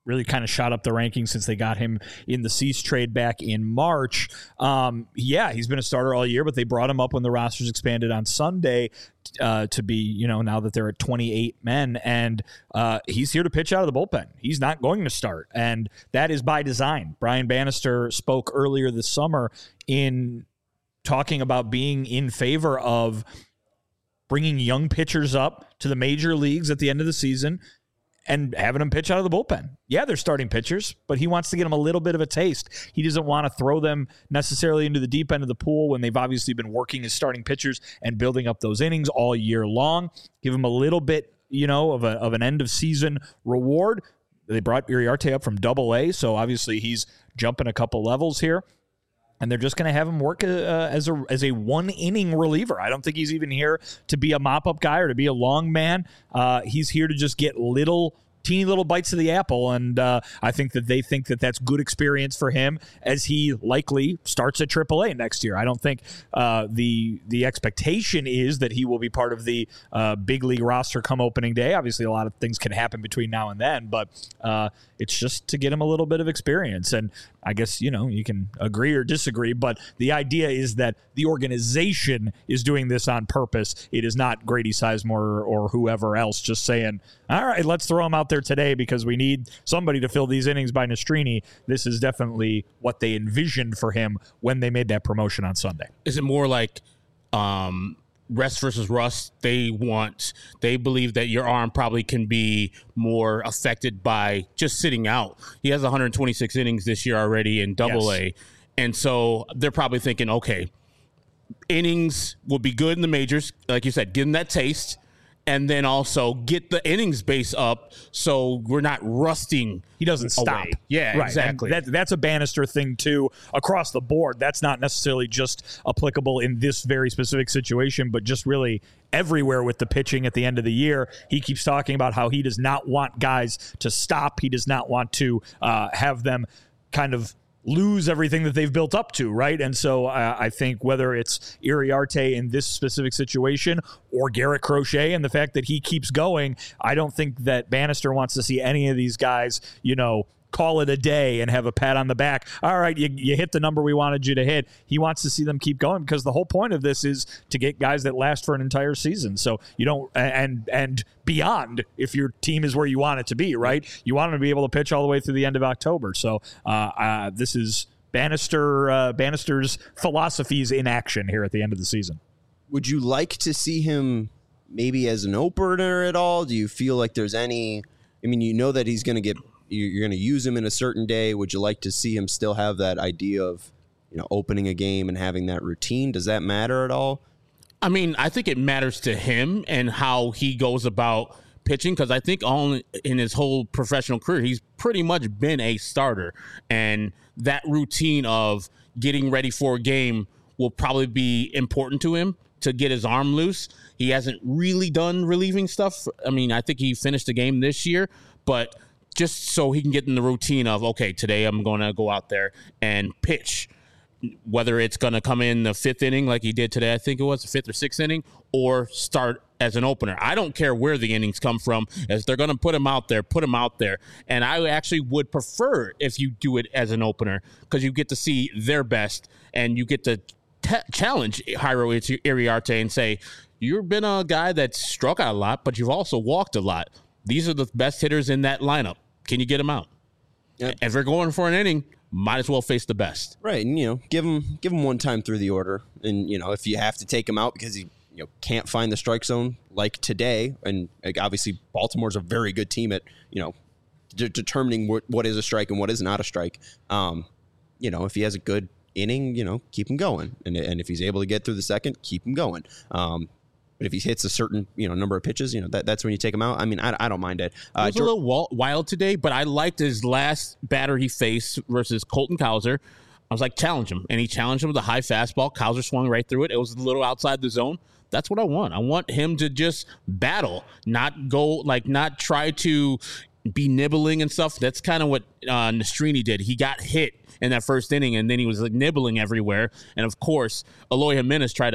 Speaker 3: really kind of shot up the rankings since they got him in the Cease trade back in March. Um, yeah, he's been a starter all year, but they brought him up when the rosters expanded on Sunday uh, to be, you know, now that they're at twenty-eight men, and uh, he's here to pitch out of the bullpen. He's not going to start, and that is by design. Brian Bannister spoke earlier this summer in talking about being in favor of bringing young pitchers up to the major leagues at the end of the season and having them pitch out of the bullpen. Yeah, they're starting pitchers, but he wants to get them a little bit of a taste. He doesn't want to throw them necessarily into the deep end of the pool when they've obviously been working as starting pitchers and building up those innings all year long. Give them a little bit, you know, of a of an end of season reward. They brought Iriarte up from double A, so obviously he's jumping a couple levels here. And they're just going to have him work uh, as a as a one inning reliever. I don't think he's even here to be a mop up guy or to be a long man. Uh, he's here to just get little, teeny little bites of the apple. And uh, I think that they think that that's good experience for him as he likely starts at triple A next year. I don't think uh, the the expectation is that he will be part of the uh, big league roster come opening day. Obviously, a lot of things can happen between now and then, but uh, it's just to get him a little bit of experience. And I guess, you know, you can agree or disagree, but the idea is that the organization is doing this on purpose. It is not Grady Sizemore or whoever else just saying, all right, let's throw him out there today because we need somebody to fill these innings by Nastrini. This is definitely what they envisioned for him when they made that promotion on Sunday.
Speaker 2: Is it more like um, rest versus rust? They want, they believe that your arm probably can be more affected by just sitting out. He has one hundred twenty-six innings this year already in double A. Yes. And so they're probably thinking, okay, innings will be good in the majors. Like you said, give him that taste. And then also get the innings base up so we're not rusting.
Speaker 3: He doesn't stop.
Speaker 2: Away. Yeah, right. Exactly.
Speaker 3: That, that's a Bannister thing, too, across the board. That's not necessarily just applicable in this very specific situation, but just really everywhere with the pitching at the end of the year. He keeps talking about how he does not want guys to stop. He does not want to uh, have them kind of lose everything that they've built up to, right? And so uh, I think whether it's Iriarte in this specific situation or Garrett Crochet and the fact that he keeps going, I don't think that Bannister wants to see any of these guys, you know, call it a day and have a pat on the back. All right, you, you hit the number we wanted you to hit. He wants to see them keep going because the whole point of this is to get guys that last for an entire season. So you don't, and and beyond, if your team is where you want it to be, right? You want them to be able to pitch all the way through the end of October. So uh, uh, this is Bannister uh, Bannister's philosophies in action here at the end of the season.
Speaker 1: Would you like to see him maybe as an opener at all? Do you feel like there's any, I mean, you know that he's going to get, you're going to use him in a certain day. Would you like to see him still have that idea of, you know, opening a game and having that routine? Does that matter at all?
Speaker 2: I mean, I think it matters to him and how he goes about pitching because I think all in his whole professional career, he's pretty much been a starter. And that routine of getting ready for a game will probably be important to him to get his arm loose. He hasn't really done relieving stuff. I mean, I think he finished the game this year, but just so he can get in the routine of, okay, today I'm going to go out there and pitch, whether it's going to come in the fifth inning like he did today, I think it was the fifth or sixth inning, or start as an opener. I don't care where the innings come from. As they're going to put him out there, put him out there. And I actually would prefer if you do it as an opener because you get to see their best and you get to t- challenge Jairo Iriarte and say, you've been a guy that struck out a lot, but you've also walked a lot. These are the best hitters in that lineup. Can you get them out? Yep. If they're going for an inning, might as well face the best.
Speaker 1: Right, and you know, give him give him one time through the order, and you know, if you have to take him out because he you know can't find the strike zone like today, and like, obviously Baltimore's a very good team at you know de- determining what what is a strike and what is not a strike. Um, you know, if he has a good inning, you know, keep him going, and and if he's able to get through the second, keep him going. Um, But if he hits a certain, you know, number of pitches, you know, that, that's when you take him out. I mean, I, I don't mind it.
Speaker 2: Uh, it was George- a little wild today, but I liked his last batter he faced versus Colton Cowser. I was like, challenge him. And he challenged him with a high fastball. Cowser swung right through it. It was a little outside the zone. That's what I want. I want him to just battle, not go, like, not try to be nibbling and stuff. That's kind of what uh, Nastrini did. He got hit in that first inning, and then he was like nibbling everywhere. And of course, Eloy Jimenez tried to,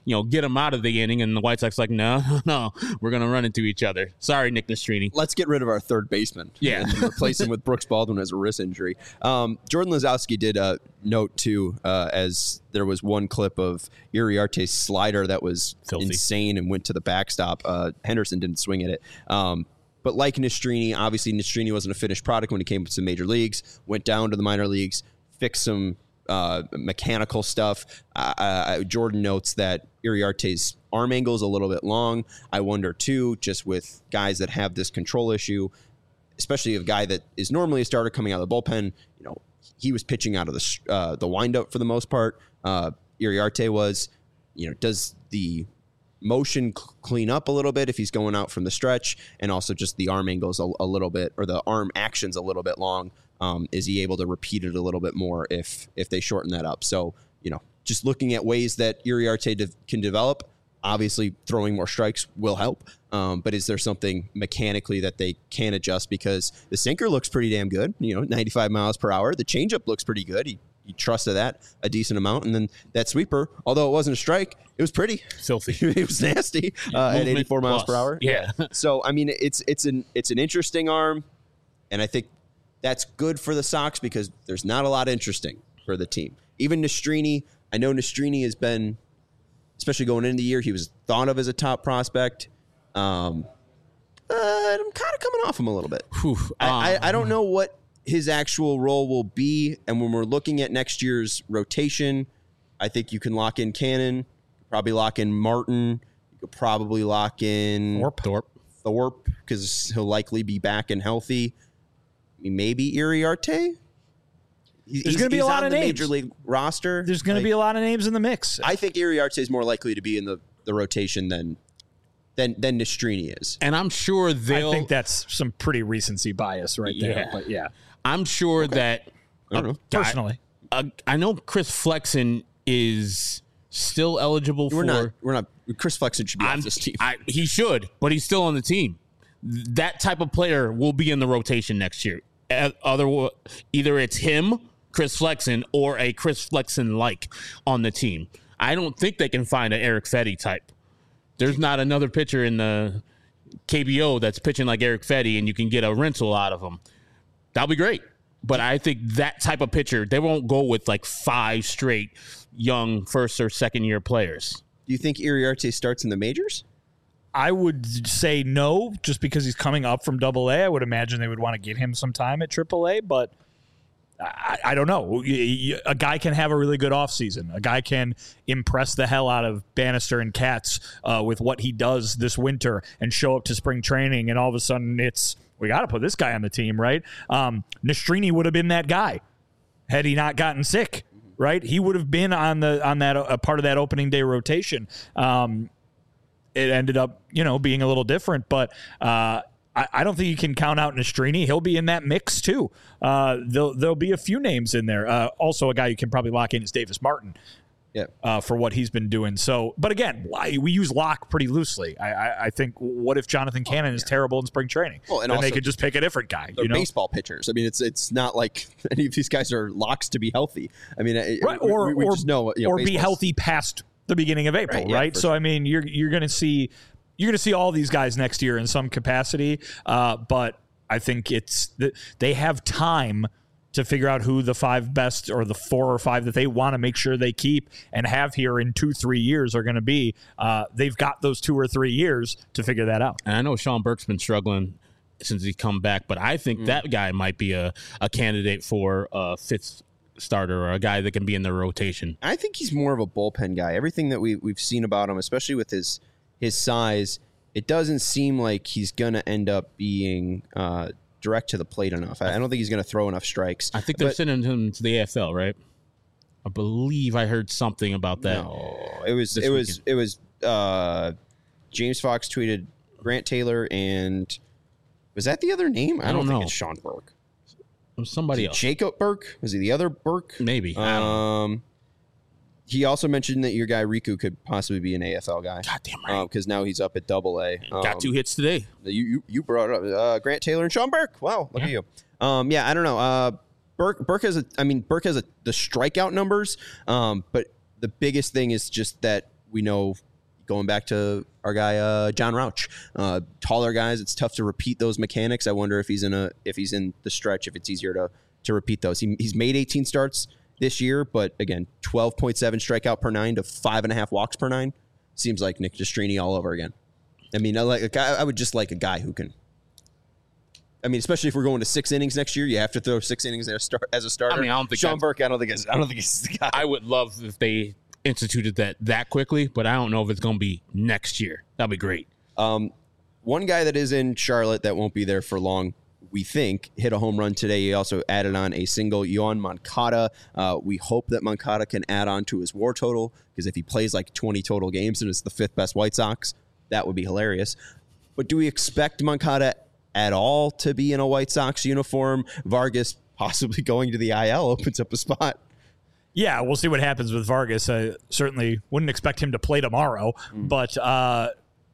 Speaker 2: you know, get him out of the inning. And the White Sox like, no, no, we're going to run into each other. Sorry, Nick Nastrini.
Speaker 1: Let's get rid of our third baseman.
Speaker 2: Yeah.
Speaker 1: And replace him with Brooks Baldwin as a wrist injury. Um, Jordan Lazowski did a note, too, uh, as there was one clip of Iriarte's slider that was
Speaker 2: Filthy.
Speaker 1: insane and went to the backstop. Uh, Henderson didn't swing at it. Um, but like Nastrini, obviously Nastrini wasn't a finished product when he came to the major leagues, went down to the minor leagues, fixed some uh, mechanical stuff. Uh, uh, Jordan notes that Iriarte's arm angle is a little bit long. I wonder, too, just with guys that have this control issue, especially a guy that is normally a starter coming out of the bullpen, you know, he was pitching out of the uh, the windup for the most part. Uh, Iriarte was, you know, does the motion cl- clean up a little bit if he's going out from the stretch, and also just the arm angles a, a little bit, or the arm actions a little bit long. Um, is he able to repeat it a little bit more if if they shorten that up? So, you know, just looking at ways that Iriarte de- can develop. Obviously, throwing more strikes will help. Um, but is there something mechanically that they can adjust? Because the sinker looks pretty damn good, you know, ninety-five miles per hour. The changeup looks pretty good. He, he trusted that a decent amount. And then that sweeper, although it wasn't a strike, it was pretty.
Speaker 2: Filthy.
Speaker 1: It was nasty uh, at eighty-four miles per hour.
Speaker 2: Yeah.
Speaker 1: So, I mean, it's it's an it's an interesting arm. And I think that's good for the Sox because there's not a lot interesting for the team. Even Nastrini, I know Nastrini has been, especially going into the year, he was thought of as a top prospect. Um, uh, I'm kind of coming off him a little bit.
Speaker 2: Whew,
Speaker 1: I,
Speaker 2: um,
Speaker 1: I, I don't know what his actual role will be. And when we're looking at next year's rotation, I think you can lock in Cannon, probably lock in Martin. You could probably lock in
Speaker 2: Thorpe. Thorpe.
Speaker 1: Thorpe because he'll likely be back and healthy. I mean, maybe Iriarte. He's,
Speaker 3: There's going to be a lot
Speaker 1: on
Speaker 3: of
Speaker 1: the
Speaker 3: names.
Speaker 1: Major League roster.
Speaker 3: There's going
Speaker 1: Like,
Speaker 3: to be a lot of names in the mix.
Speaker 1: I think Iriarte is more likely to be in the, the rotation than than than Nastrini is.
Speaker 2: And I'm sure they'll.
Speaker 3: I think that's some pretty recency bias right there.
Speaker 2: Yeah.
Speaker 3: But yeah,
Speaker 2: I'm sure that.
Speaker 1: I don't know.
Speaker 2: guy-
Speaker 3: personally.
Speaker 2: uh, I know Chris Flexen is still eligible
Speaker 1: We're
Speaker 2: for.
Speaker 1: not. We're not. Chris Flexen should be
Speaker 2: I'm,
Speaker 1: off this team.
Speaker 2: I, he should, but he's still on the team. That type of player will be in the rotation next year. Uh, Other, either it's him, Chris Flexen, or a Chris Flexen like on the team. I don't think they can find an Eric Fetty type. There's not another pitcher in the K B O that's pitching like Eric Fetty, and you can get a rental out of him. That'll be great. But I think that type of pitcher, they won't go with like five straight young first or second year players.
Speaker 1: Do you think Iriarte starts in the majors?
Speaker 3: I would say no, just because he's coming up from Double A. I would imagine they would want to get him some time at Triple A, but I, I don't know. A guy can have a really good offseason. A guy can impress the hell out of Bannister and Katz uh, with what he does this winter and show up to spring training, and all of a sudden it's, we got to put this guy on the team, right? Um, Nastrini would have been that guy had he not gotten sick, right? He would have been on the on that a part of that opening day rotation. Um, it ended up, you know, being a little different, but uh, I, I don't think you can count out Nastrini. He'll be in that mix too. Uh, there'll, there'll be a few names in there. Uh, also, a guy you can probably lock in is Davis Martin.
Speaker 1: Yeah.
Speaker 3: Uh, for what he's been doing. So, but again, we use lock pretty loosely. I, I, I think, what if Jonathan Cannon oh, yeah. is terrible in spring training?
Speaker 1: Well, and
Speaker 3: then
Speaker 1: also,
Speaker 3: they could just pick a different guy.
Speaker 1: They're
Speaker 3: you know?
Speaker 1: baseball pitchers. I mean, it's it's not like any of these guys are locks to be healthy. I mean,
Speaker 3: right.
Speaker 1: we,
Speaker 3: or
Speaker 1: we, we
Speaker 3: or,
Speaker 1: just know, you know,
Speaker 3: or be healthy past the beginning of April,
Speaker 1: right? Yeah,
Speaker 3: right? So,
Speaker 1: sure.
Speaker 3: I mean, you're you're going to see you're going to see all these guys next year in some capacity, uh, but I think it's they have time to figure out who the five best or the four or five that they want to make sure they keep and have here in two, three years are going to be. Uh, they've got those two or three years to figure that out.
Speaker 2: And I know Sean Burke's been struggling since he's come back, but I think mm. that guy might be a, a candidate for a fifth starter or a guy that can be in the rotation.
Speaker 1: I think he's more of a bullpen guy. Everything that we, we've seen about him, especially with his his size, it doesn't seem like he's going to end up being uh, – direct to the plate enough. I don't think he's going to throw enough strikes.
Speaker 2: I think they're
Speaker 1: but,
Speaker 2: sending him to the A F L, right? I believe I heard something about that.
Speaker 1: No, it was it was weekend. it was uh, James Fox tweeted Grant Taylor, and was that the other name? I, I don't, don't think know. It's Sean Burke.
Speaker 2: It was somebody else.
Speaker 1: Jacob Burke? Was he the other Burke?
Speaker 2: Maybe.
Speaker 1: Um, he also mentioned that your guy Riku could possibly be an A F L guy.
Speaker 2: Goddamn right.
Speaker 1: Because uh, now he's up at Double A. Um,
Speaker 2: Got two hits today.
Speaker 1: You you, you brought up uh, Grant Taylor and Sean Burke. Wow, look yeah. at you. Um, yeah, I don't know. Uh, Burke Burke has a. I mean, Burke has a, the strikeout numbers. Um, but the biggest thing is just that we know going back to our guy uh, John Rauch, uh, taller guys, it's tough to repeat those mechanics. I wonder if he's in a if he's in the stretch, if it's easier to to repeat those. He, he's made eighteen starts this year, but again, twelve point seven strikeout per nine to five and a half walks per nine. Seems like Nick Destrini all over again. I mean, I like a guy, I would just like a guy who can. I mean, especially if we're going to six innings next year, you have to throw six innings as a, start, as a starter.
Speaker 2: I mean, I don't think
Speaker 1: Sean Burke. I don't think it's, I don't think he's the guy.
Speaker 2: I would love if they instituted that that quickly, but I don't know if it's going to be next year. That'd be great.
Speaker 1: Um, one guy that is in Charlotte that won't be there for long, we think, hit a home run today. He also added on a single, Yoan Moncada. Uh, we hope that Moncada can add on to his WAR total, because if he plays like twenty total games and is the fifth best White Sox, that would be hilarious. But do we expect Moncada at all to be in a White Sox uniform? Vargas possibly going to the I L opens up a spot.
Speaker 3: Yeah, we'll see what happens with Vargas. I certainly wouldn't expect him to play tomorrow, mm. but uh,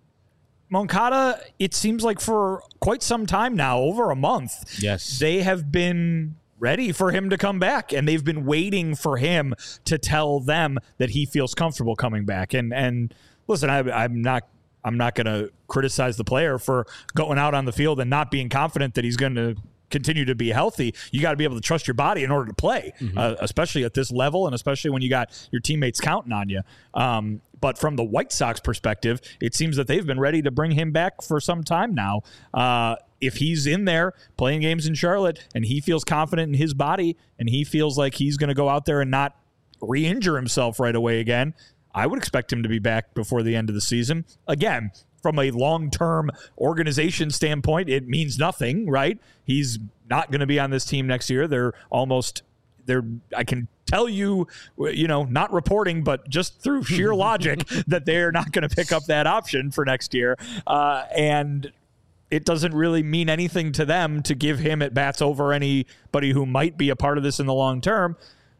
Speaker 3: Moncada, it seems like for quite some time now, over a month,
Speaker 2: yes,
Speaker 3: they have been ready for him to come back, and they've been waiting for him to tell them that he feels comfortable coming back. And and listen, I, I'm not I'm not going to criticize the player for going out on the field and not being confident that he's going to continue to be healthy. You got to be able to trust your body in order to play, mm-hmm. uh, especially at this level, and especially when you got your teammates counting on you. Um, but from the White Sox perspective, it seems that they've been ready to bring him back for some time now. Uh, if he's in there playing games in Charlotte and he feels confident in his body and he feels like he's going to go out there and not re-injure himself right away again, I would expect him to be back before the end of the season. Again, from a long-term organization standpoint, it means nothing, right? He's not going to be on this team next year. They're almost, they're, I can tell you, you know, not reporting, but just through sheer logic that they're not going to pick up that option for next year. Uh, and it doesn't really mean anything to them to give him at bats over anybody who might be a part of this in the long term.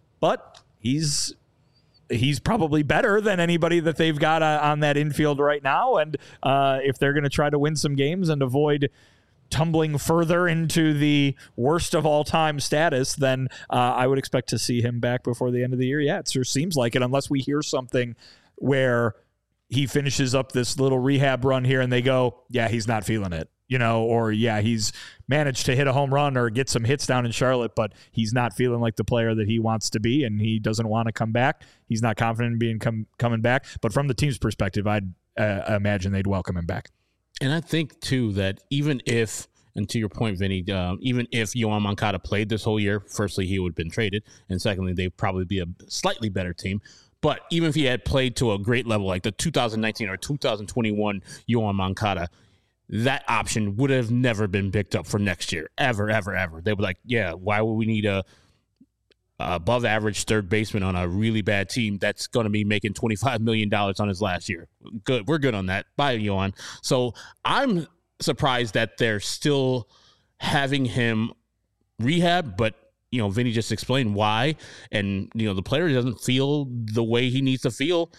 Speaker 3: But he's he's probably better than anybody that they've got uh, on that infield right now. And uh, if they're going to try to win some games and avoid tumbling further into the worst of all time status, then uh, I would expect to see him back before the end of the year. Yeah, it sure seems like it, unless we hear something where he finishes up this little rehab run here and they go, yeah, he's not feeling it, you know, or yeah, he's managed to hit a home run or get some hits down in Charlotte, but he's not feeling like the player that he wants to be, and he doesn't want to come back. He's not confident in being com- coming back. But from the team's perspective, I'd uh, imagine they'd welcome him back.
Speaker 2: And I think, too, that even if, and to your point, Vinny, uh, even if Yoan Moncada played this whole year, firstly, he would have been traded, and secondly, they'd probably be a slightly better team. But even if he had played to a great level, like the two thousand nineteen or two thousand twenty-one Yoan Moncada, that option would have never been picked up for next year, ever, ever, ever. They were like, yeah, why would we need a, a above average third baseman on a really bad team that's going to be making twenty-five million dollars on his last year? Good. We're good on that. Bye, Yoan. So I'm surprised that they're still having him rehab, but you know, Vinny just explained why, and you know, the player doesn't feel the way he needs to feel.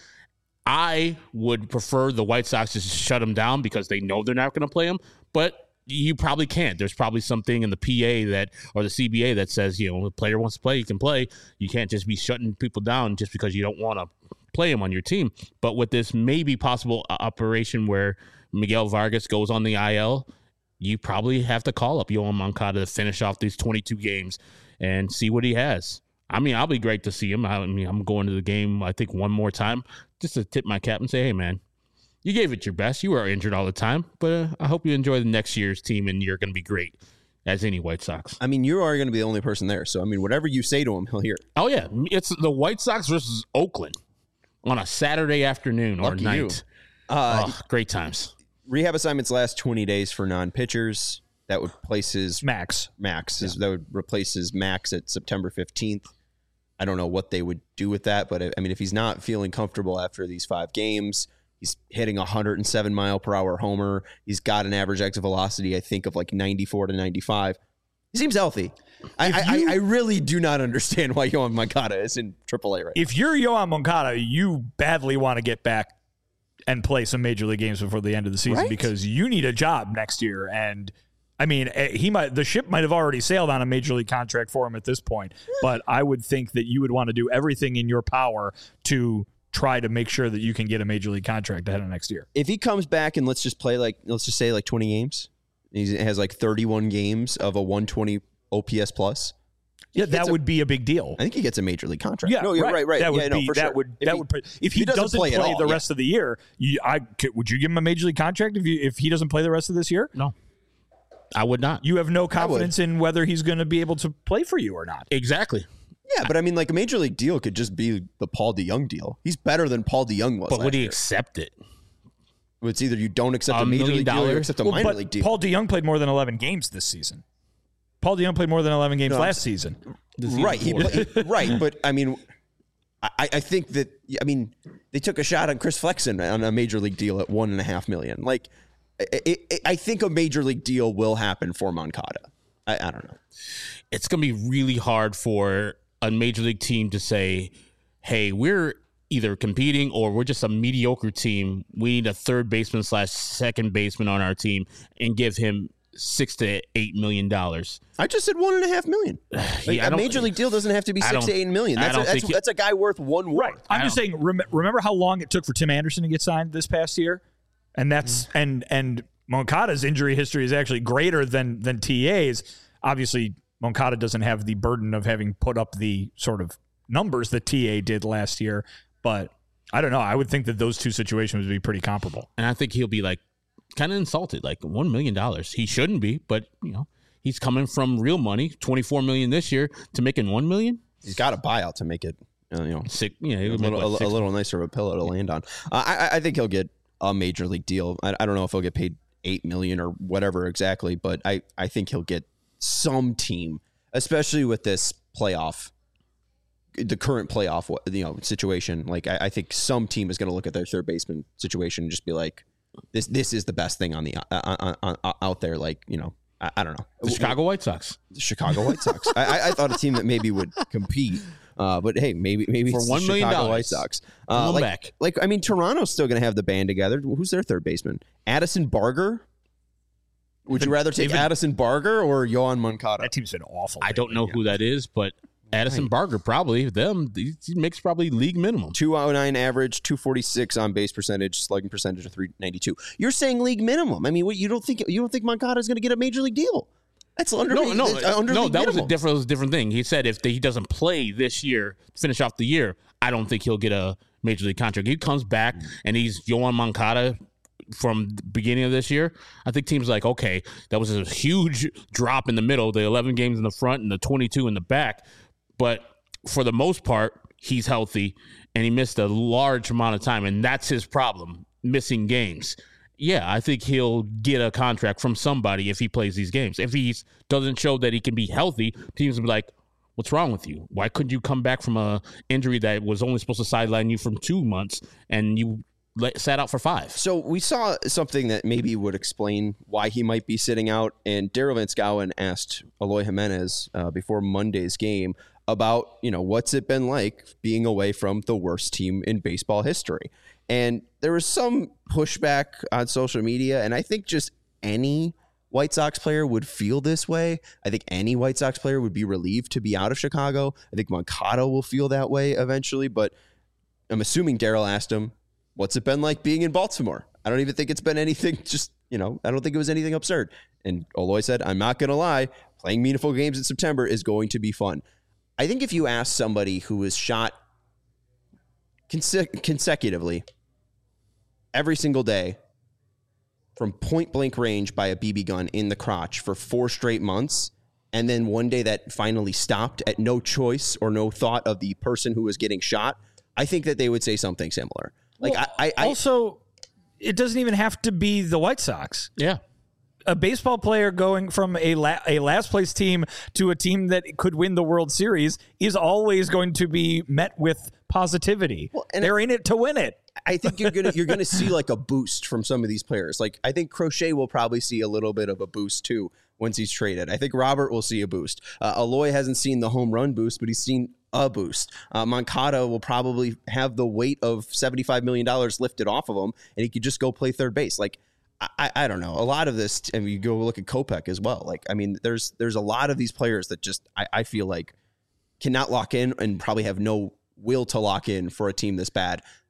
Speaker 2: I would prefer the White Sox just shut him down because they know they're not going to play him, but you probably can't. There's probably something in the P A that, or the C B A that says, you know, the player wants to play, he can play. You can't just be shutting people down just because you don't want to play him on your team. But with this maybe possible operation where Miguel Vargas goes on the I L, you probably have to call up Yoan Moncada to finish off these twenty-two games and see what he has. I mean, I'll be great to see him. I mean, I'm going to the game, I think, one more time just to tip my cap and say, hey, man, you gave it your best. You were injured all the time, but uh, I hope you enjoy the next year's team, and you're going to be great as any White Sox.
Speaker 1: I mean, you are going to be the only person there. So, I mean, whatever you say to him, he'll hear.
Speaker 2: Oh, yeah. It's the White Sox versus Oakland on a Saturday afternoon or
Speaker 1: Lucky
Speaker 2: night.
Speaker 1: Uh,
Speaker 2: oh, great times.
Speaker 1: Rehab assignments last twenty days for non-pitchers. That would place his
Speaker 3: max.
Speaker 1: Max.
Speaker 3: Yeah.
Speaker 1: Is, that would replace his max at September fifteenth. I don't know what they would do with that, but I mean, if he's not feeling comfortable after these five games, he's hitting a one hundred seven mile per hour homer. He's got an average exit velocity, I think, of like ninety-four to ninety-five. He seems healthy. I, you, I I really do not understand why Yoan Moncada is in triple A right now.
Speaker 3: If you're Yoan Moncada, you badly want to get back and play some major league games before the end of the season, right? Because you need a job next year. And I mean, he might, the ship might have already sailed on a major league contract for him at this point, but I would think that you would want to do everything in your power to try to make sure that you can get a major league contract ahead of next year.
Speaker 1: If he comes back and let's just play like, let's just say like twenty games, he has like thirty-one games of a one twenty O P S plus.
Speaker 3: Yeah, that
Speaker 1: a,
Speaker 3: would be a big deal.
Speaker 1: I think he gets a major league contract.
Speaker 3: Yeah,
Speaker 1: no, you're
Speaker 3: right,
Speaker 1: right, right.
Speaker 3: That would
Speaker 1: yeah,
Speaker 3: be
Speaker 1: no, for
Speaker 3: that
Speaker 1: sure.
Speaker 3: would
Speaker 1: if
Speaker 3: that
Speaker 1: he,
Speaker 3: would if, if he,
Speaker 1: he doesn't,
Speaker 3: doesn't
Speaker 1: play,
Speaker 3: play
Speaker 1: all,
Speaker 3: the
Speaker 1: yeah.
Speaker 3: rest of the year, you, I could, would you give him a major league contract if you if he doesn't play the rest of this year?
Speaker 2: No, I would not.
Speaker 3: You have no confidence in whether he's going to be able to play for you or not.
Speaker 2: Exactly.
Speaker 1: Yeah, but I mean, like a major league deal could just be the Paul DeJong deal. He's better than Paul DeJong was.
Speaker 2: But would he
Speaker 1: year.
Speaker 2: accept it?
Speaker 1: It's either you don't accept
Speaker 2: a
Speaker 1: a major league deal or you
Speaker 2: dollars?
Speaker 1: accept a
Speaker 3: Well,
Speaker 1: minor
Speaker 3: but
Speaker 1: league deal.
Speaker 3: Paul DeJong played more than eleven games this season. Paul DeJong played more than eleven games
Speaker 1: No,
Speaker 3: last season.
Speaker 1: Right, he play, right, but I mean, I, I think that I mean they took a shot on Chris Flexen on a major league deal at one and a half million. Like, it, it, I think a major league deal will happen for Moncada. I, I don't know.
Speaker 2: It's going to be really hard for a major league team to say, "Hey, we're either competing or we're just a mediocre team. We need a third baseman slash second baseman on our team and give him." Six to eight million dollars.
Speaker 1: I just said one and a half million. Like,
Speaker 2: Yeah,
Speaker 1: a major league deal doesn't have to be six to eight million. That's,
Speaker 2: I
Speaker 1: a,
Speaker 2: don't
Speaker 1: that's,
Speaker 2: think
Speaker 1: that's a guy worth one war.
Speaker 3: Right. I'm just saying. Rem- remember how long it took for Tim Anderson to get signed this past year, and that's mm-hmm. and and Moncada's injury history is actually greater than than T A's. Obviously, Moncada doesn't have the burden of having put up the sort of numbers that T A did last year, but I don't know. I would think that those two situations would be pretty comparable.
Speaker 2: And I think he'll be like. Kind of insulted, like one million dollars. He shouldn't be, but you know, he's coming from real money, twenty-four million this year, to making one million.
Speaker 1: He's got a buyout to make it, uh, you know,
Speaker 2: Six, yeah,
Speaker 1: a, little, what, a, a little nicer of a pillow to land on. Uh, I, I think he'll get a major league deal. I, I don't know if he'll get paid eight million or whatever exactly, but I, I think he'll get some team, especially with this playoff, the current playoff, you know, situation. Like I, I think some team is going to look at their third baseman situation and just be like. This this is the best thing on the uh, uh, uh, out there. Like, you know, I, I don't know.
Speaker 2: The Chicago White Sox.
Speaker 1: The Chicago White Sox. I, I thought a team that maybe would compete, uh, but hey, maybe maybe
Speaker 2: for
Speaker 1: it's
Speaker 2: one
Speaker 1: the
Speaker 2: million
Speaker 1: Chicago
Speaker 2: dollars.
Speaker 1: White Sox. Uh, like,
Speaker 2: back.
Speaker 1: like I mean, Toronto's still going to have the band together. Who's their third baseman? Addison Barger. Would you rather take
Speaker 3: David,
Speaker 1: Addison Barger or Yohan Moncada?
Speaker 3: That team's been awful.
Speaker 2: I don't know
Speaker 3: yeah.
Speaker 2: who that is, but Addison right. Barger probably them. He makes probably league minimum.
Speaker 1: two oh nine average, two forty-six on base percentage, slugging percentage of three ninety-two. You're saying league minimum. I mean, what, you don't think you don't think Moncada is going to get a major league deal? That's under
Speaker 2: no, no,
Speaker 1: uh, under
Speaker 2: no.
Speaker 1: league
Speaker 2: That
Speaker 1: minimum.
Speaker 2: was a different, was a different thing. He said if the, he doesn't play this year, finish off the year, I don't think he'll get a major league contract. He comes back and he's Yohan Moncada from the beginning of this year. I think teams like, okay, that was a huge drop in the middle, the eleven games in the front and the twenty-two in the back, but for the most part, he's healthy, and he missed a large amount of time, and that's his problem, missing games. Yeah, I think he'll get a contract from somebody if he plays these games. If he doesn't show that he can be healthy, teams will be like, what's wrong with you? Why couldn't you come back from a injury that was only supposed to sideline you from two months, and you let, sat out for five?
Speaker 1: So we saw something that maybe would explain why he might be sitting out, and Daryl Van Schouwen asked Eloy Jimenez uh, before Monday's game about, you know, what's it been like being away from the worst team in baseball history. And there was some pushback on social media, and I think just any White Sox player would feel this way. I think any White Sox player would be relieved to be out of Chicago. I think Moncada will feel that way eventually, but I'm assuming Daryl asked him, what's it been like being in Baltimore? I don't even think it's been anything just, you know, I don't think it was anything absurd. And Eloy said, I'm not going to lie, playing meaningful games in September is going to be fun. I think if you ask somebody who was shot conse- consecutively every single day from point blank range by a B B gun in the crotch for four straight months, and then one day that finally stopped at no choice or no thought of the person who was getting shot, I think that they would say something similar. Like
Speaker 3: well,
Speaker 1: I, I
Speaker 3: also, it doesn't even have to be the White Sox.
Speaker 2: Yeah.
Speaker 3: A baseball player going from a la- a last place team to a team that could win the World Series is always going to be met with positivity. Well, and they're in it to win it.
Speaker 1: I think you're gonna you're gonna see like a boost from some of these players. Like I think Crochet will probably see a little bit of a boost too once he's traded. I think Robert will see a boost. Uh, Eloy hasn't seen the home run boost, but he's seen a boost. Uh, Moncada will probably have the weight of seventy-five million dollars lifted off of him, and he could just go play third base. Like. I, I don't know. A lot of this, and you go look at Kopech as well. Like, I mean, there's there's a lot of these players that just I, I feel like cannot lock in and probably have no will to lock in for a team this bad.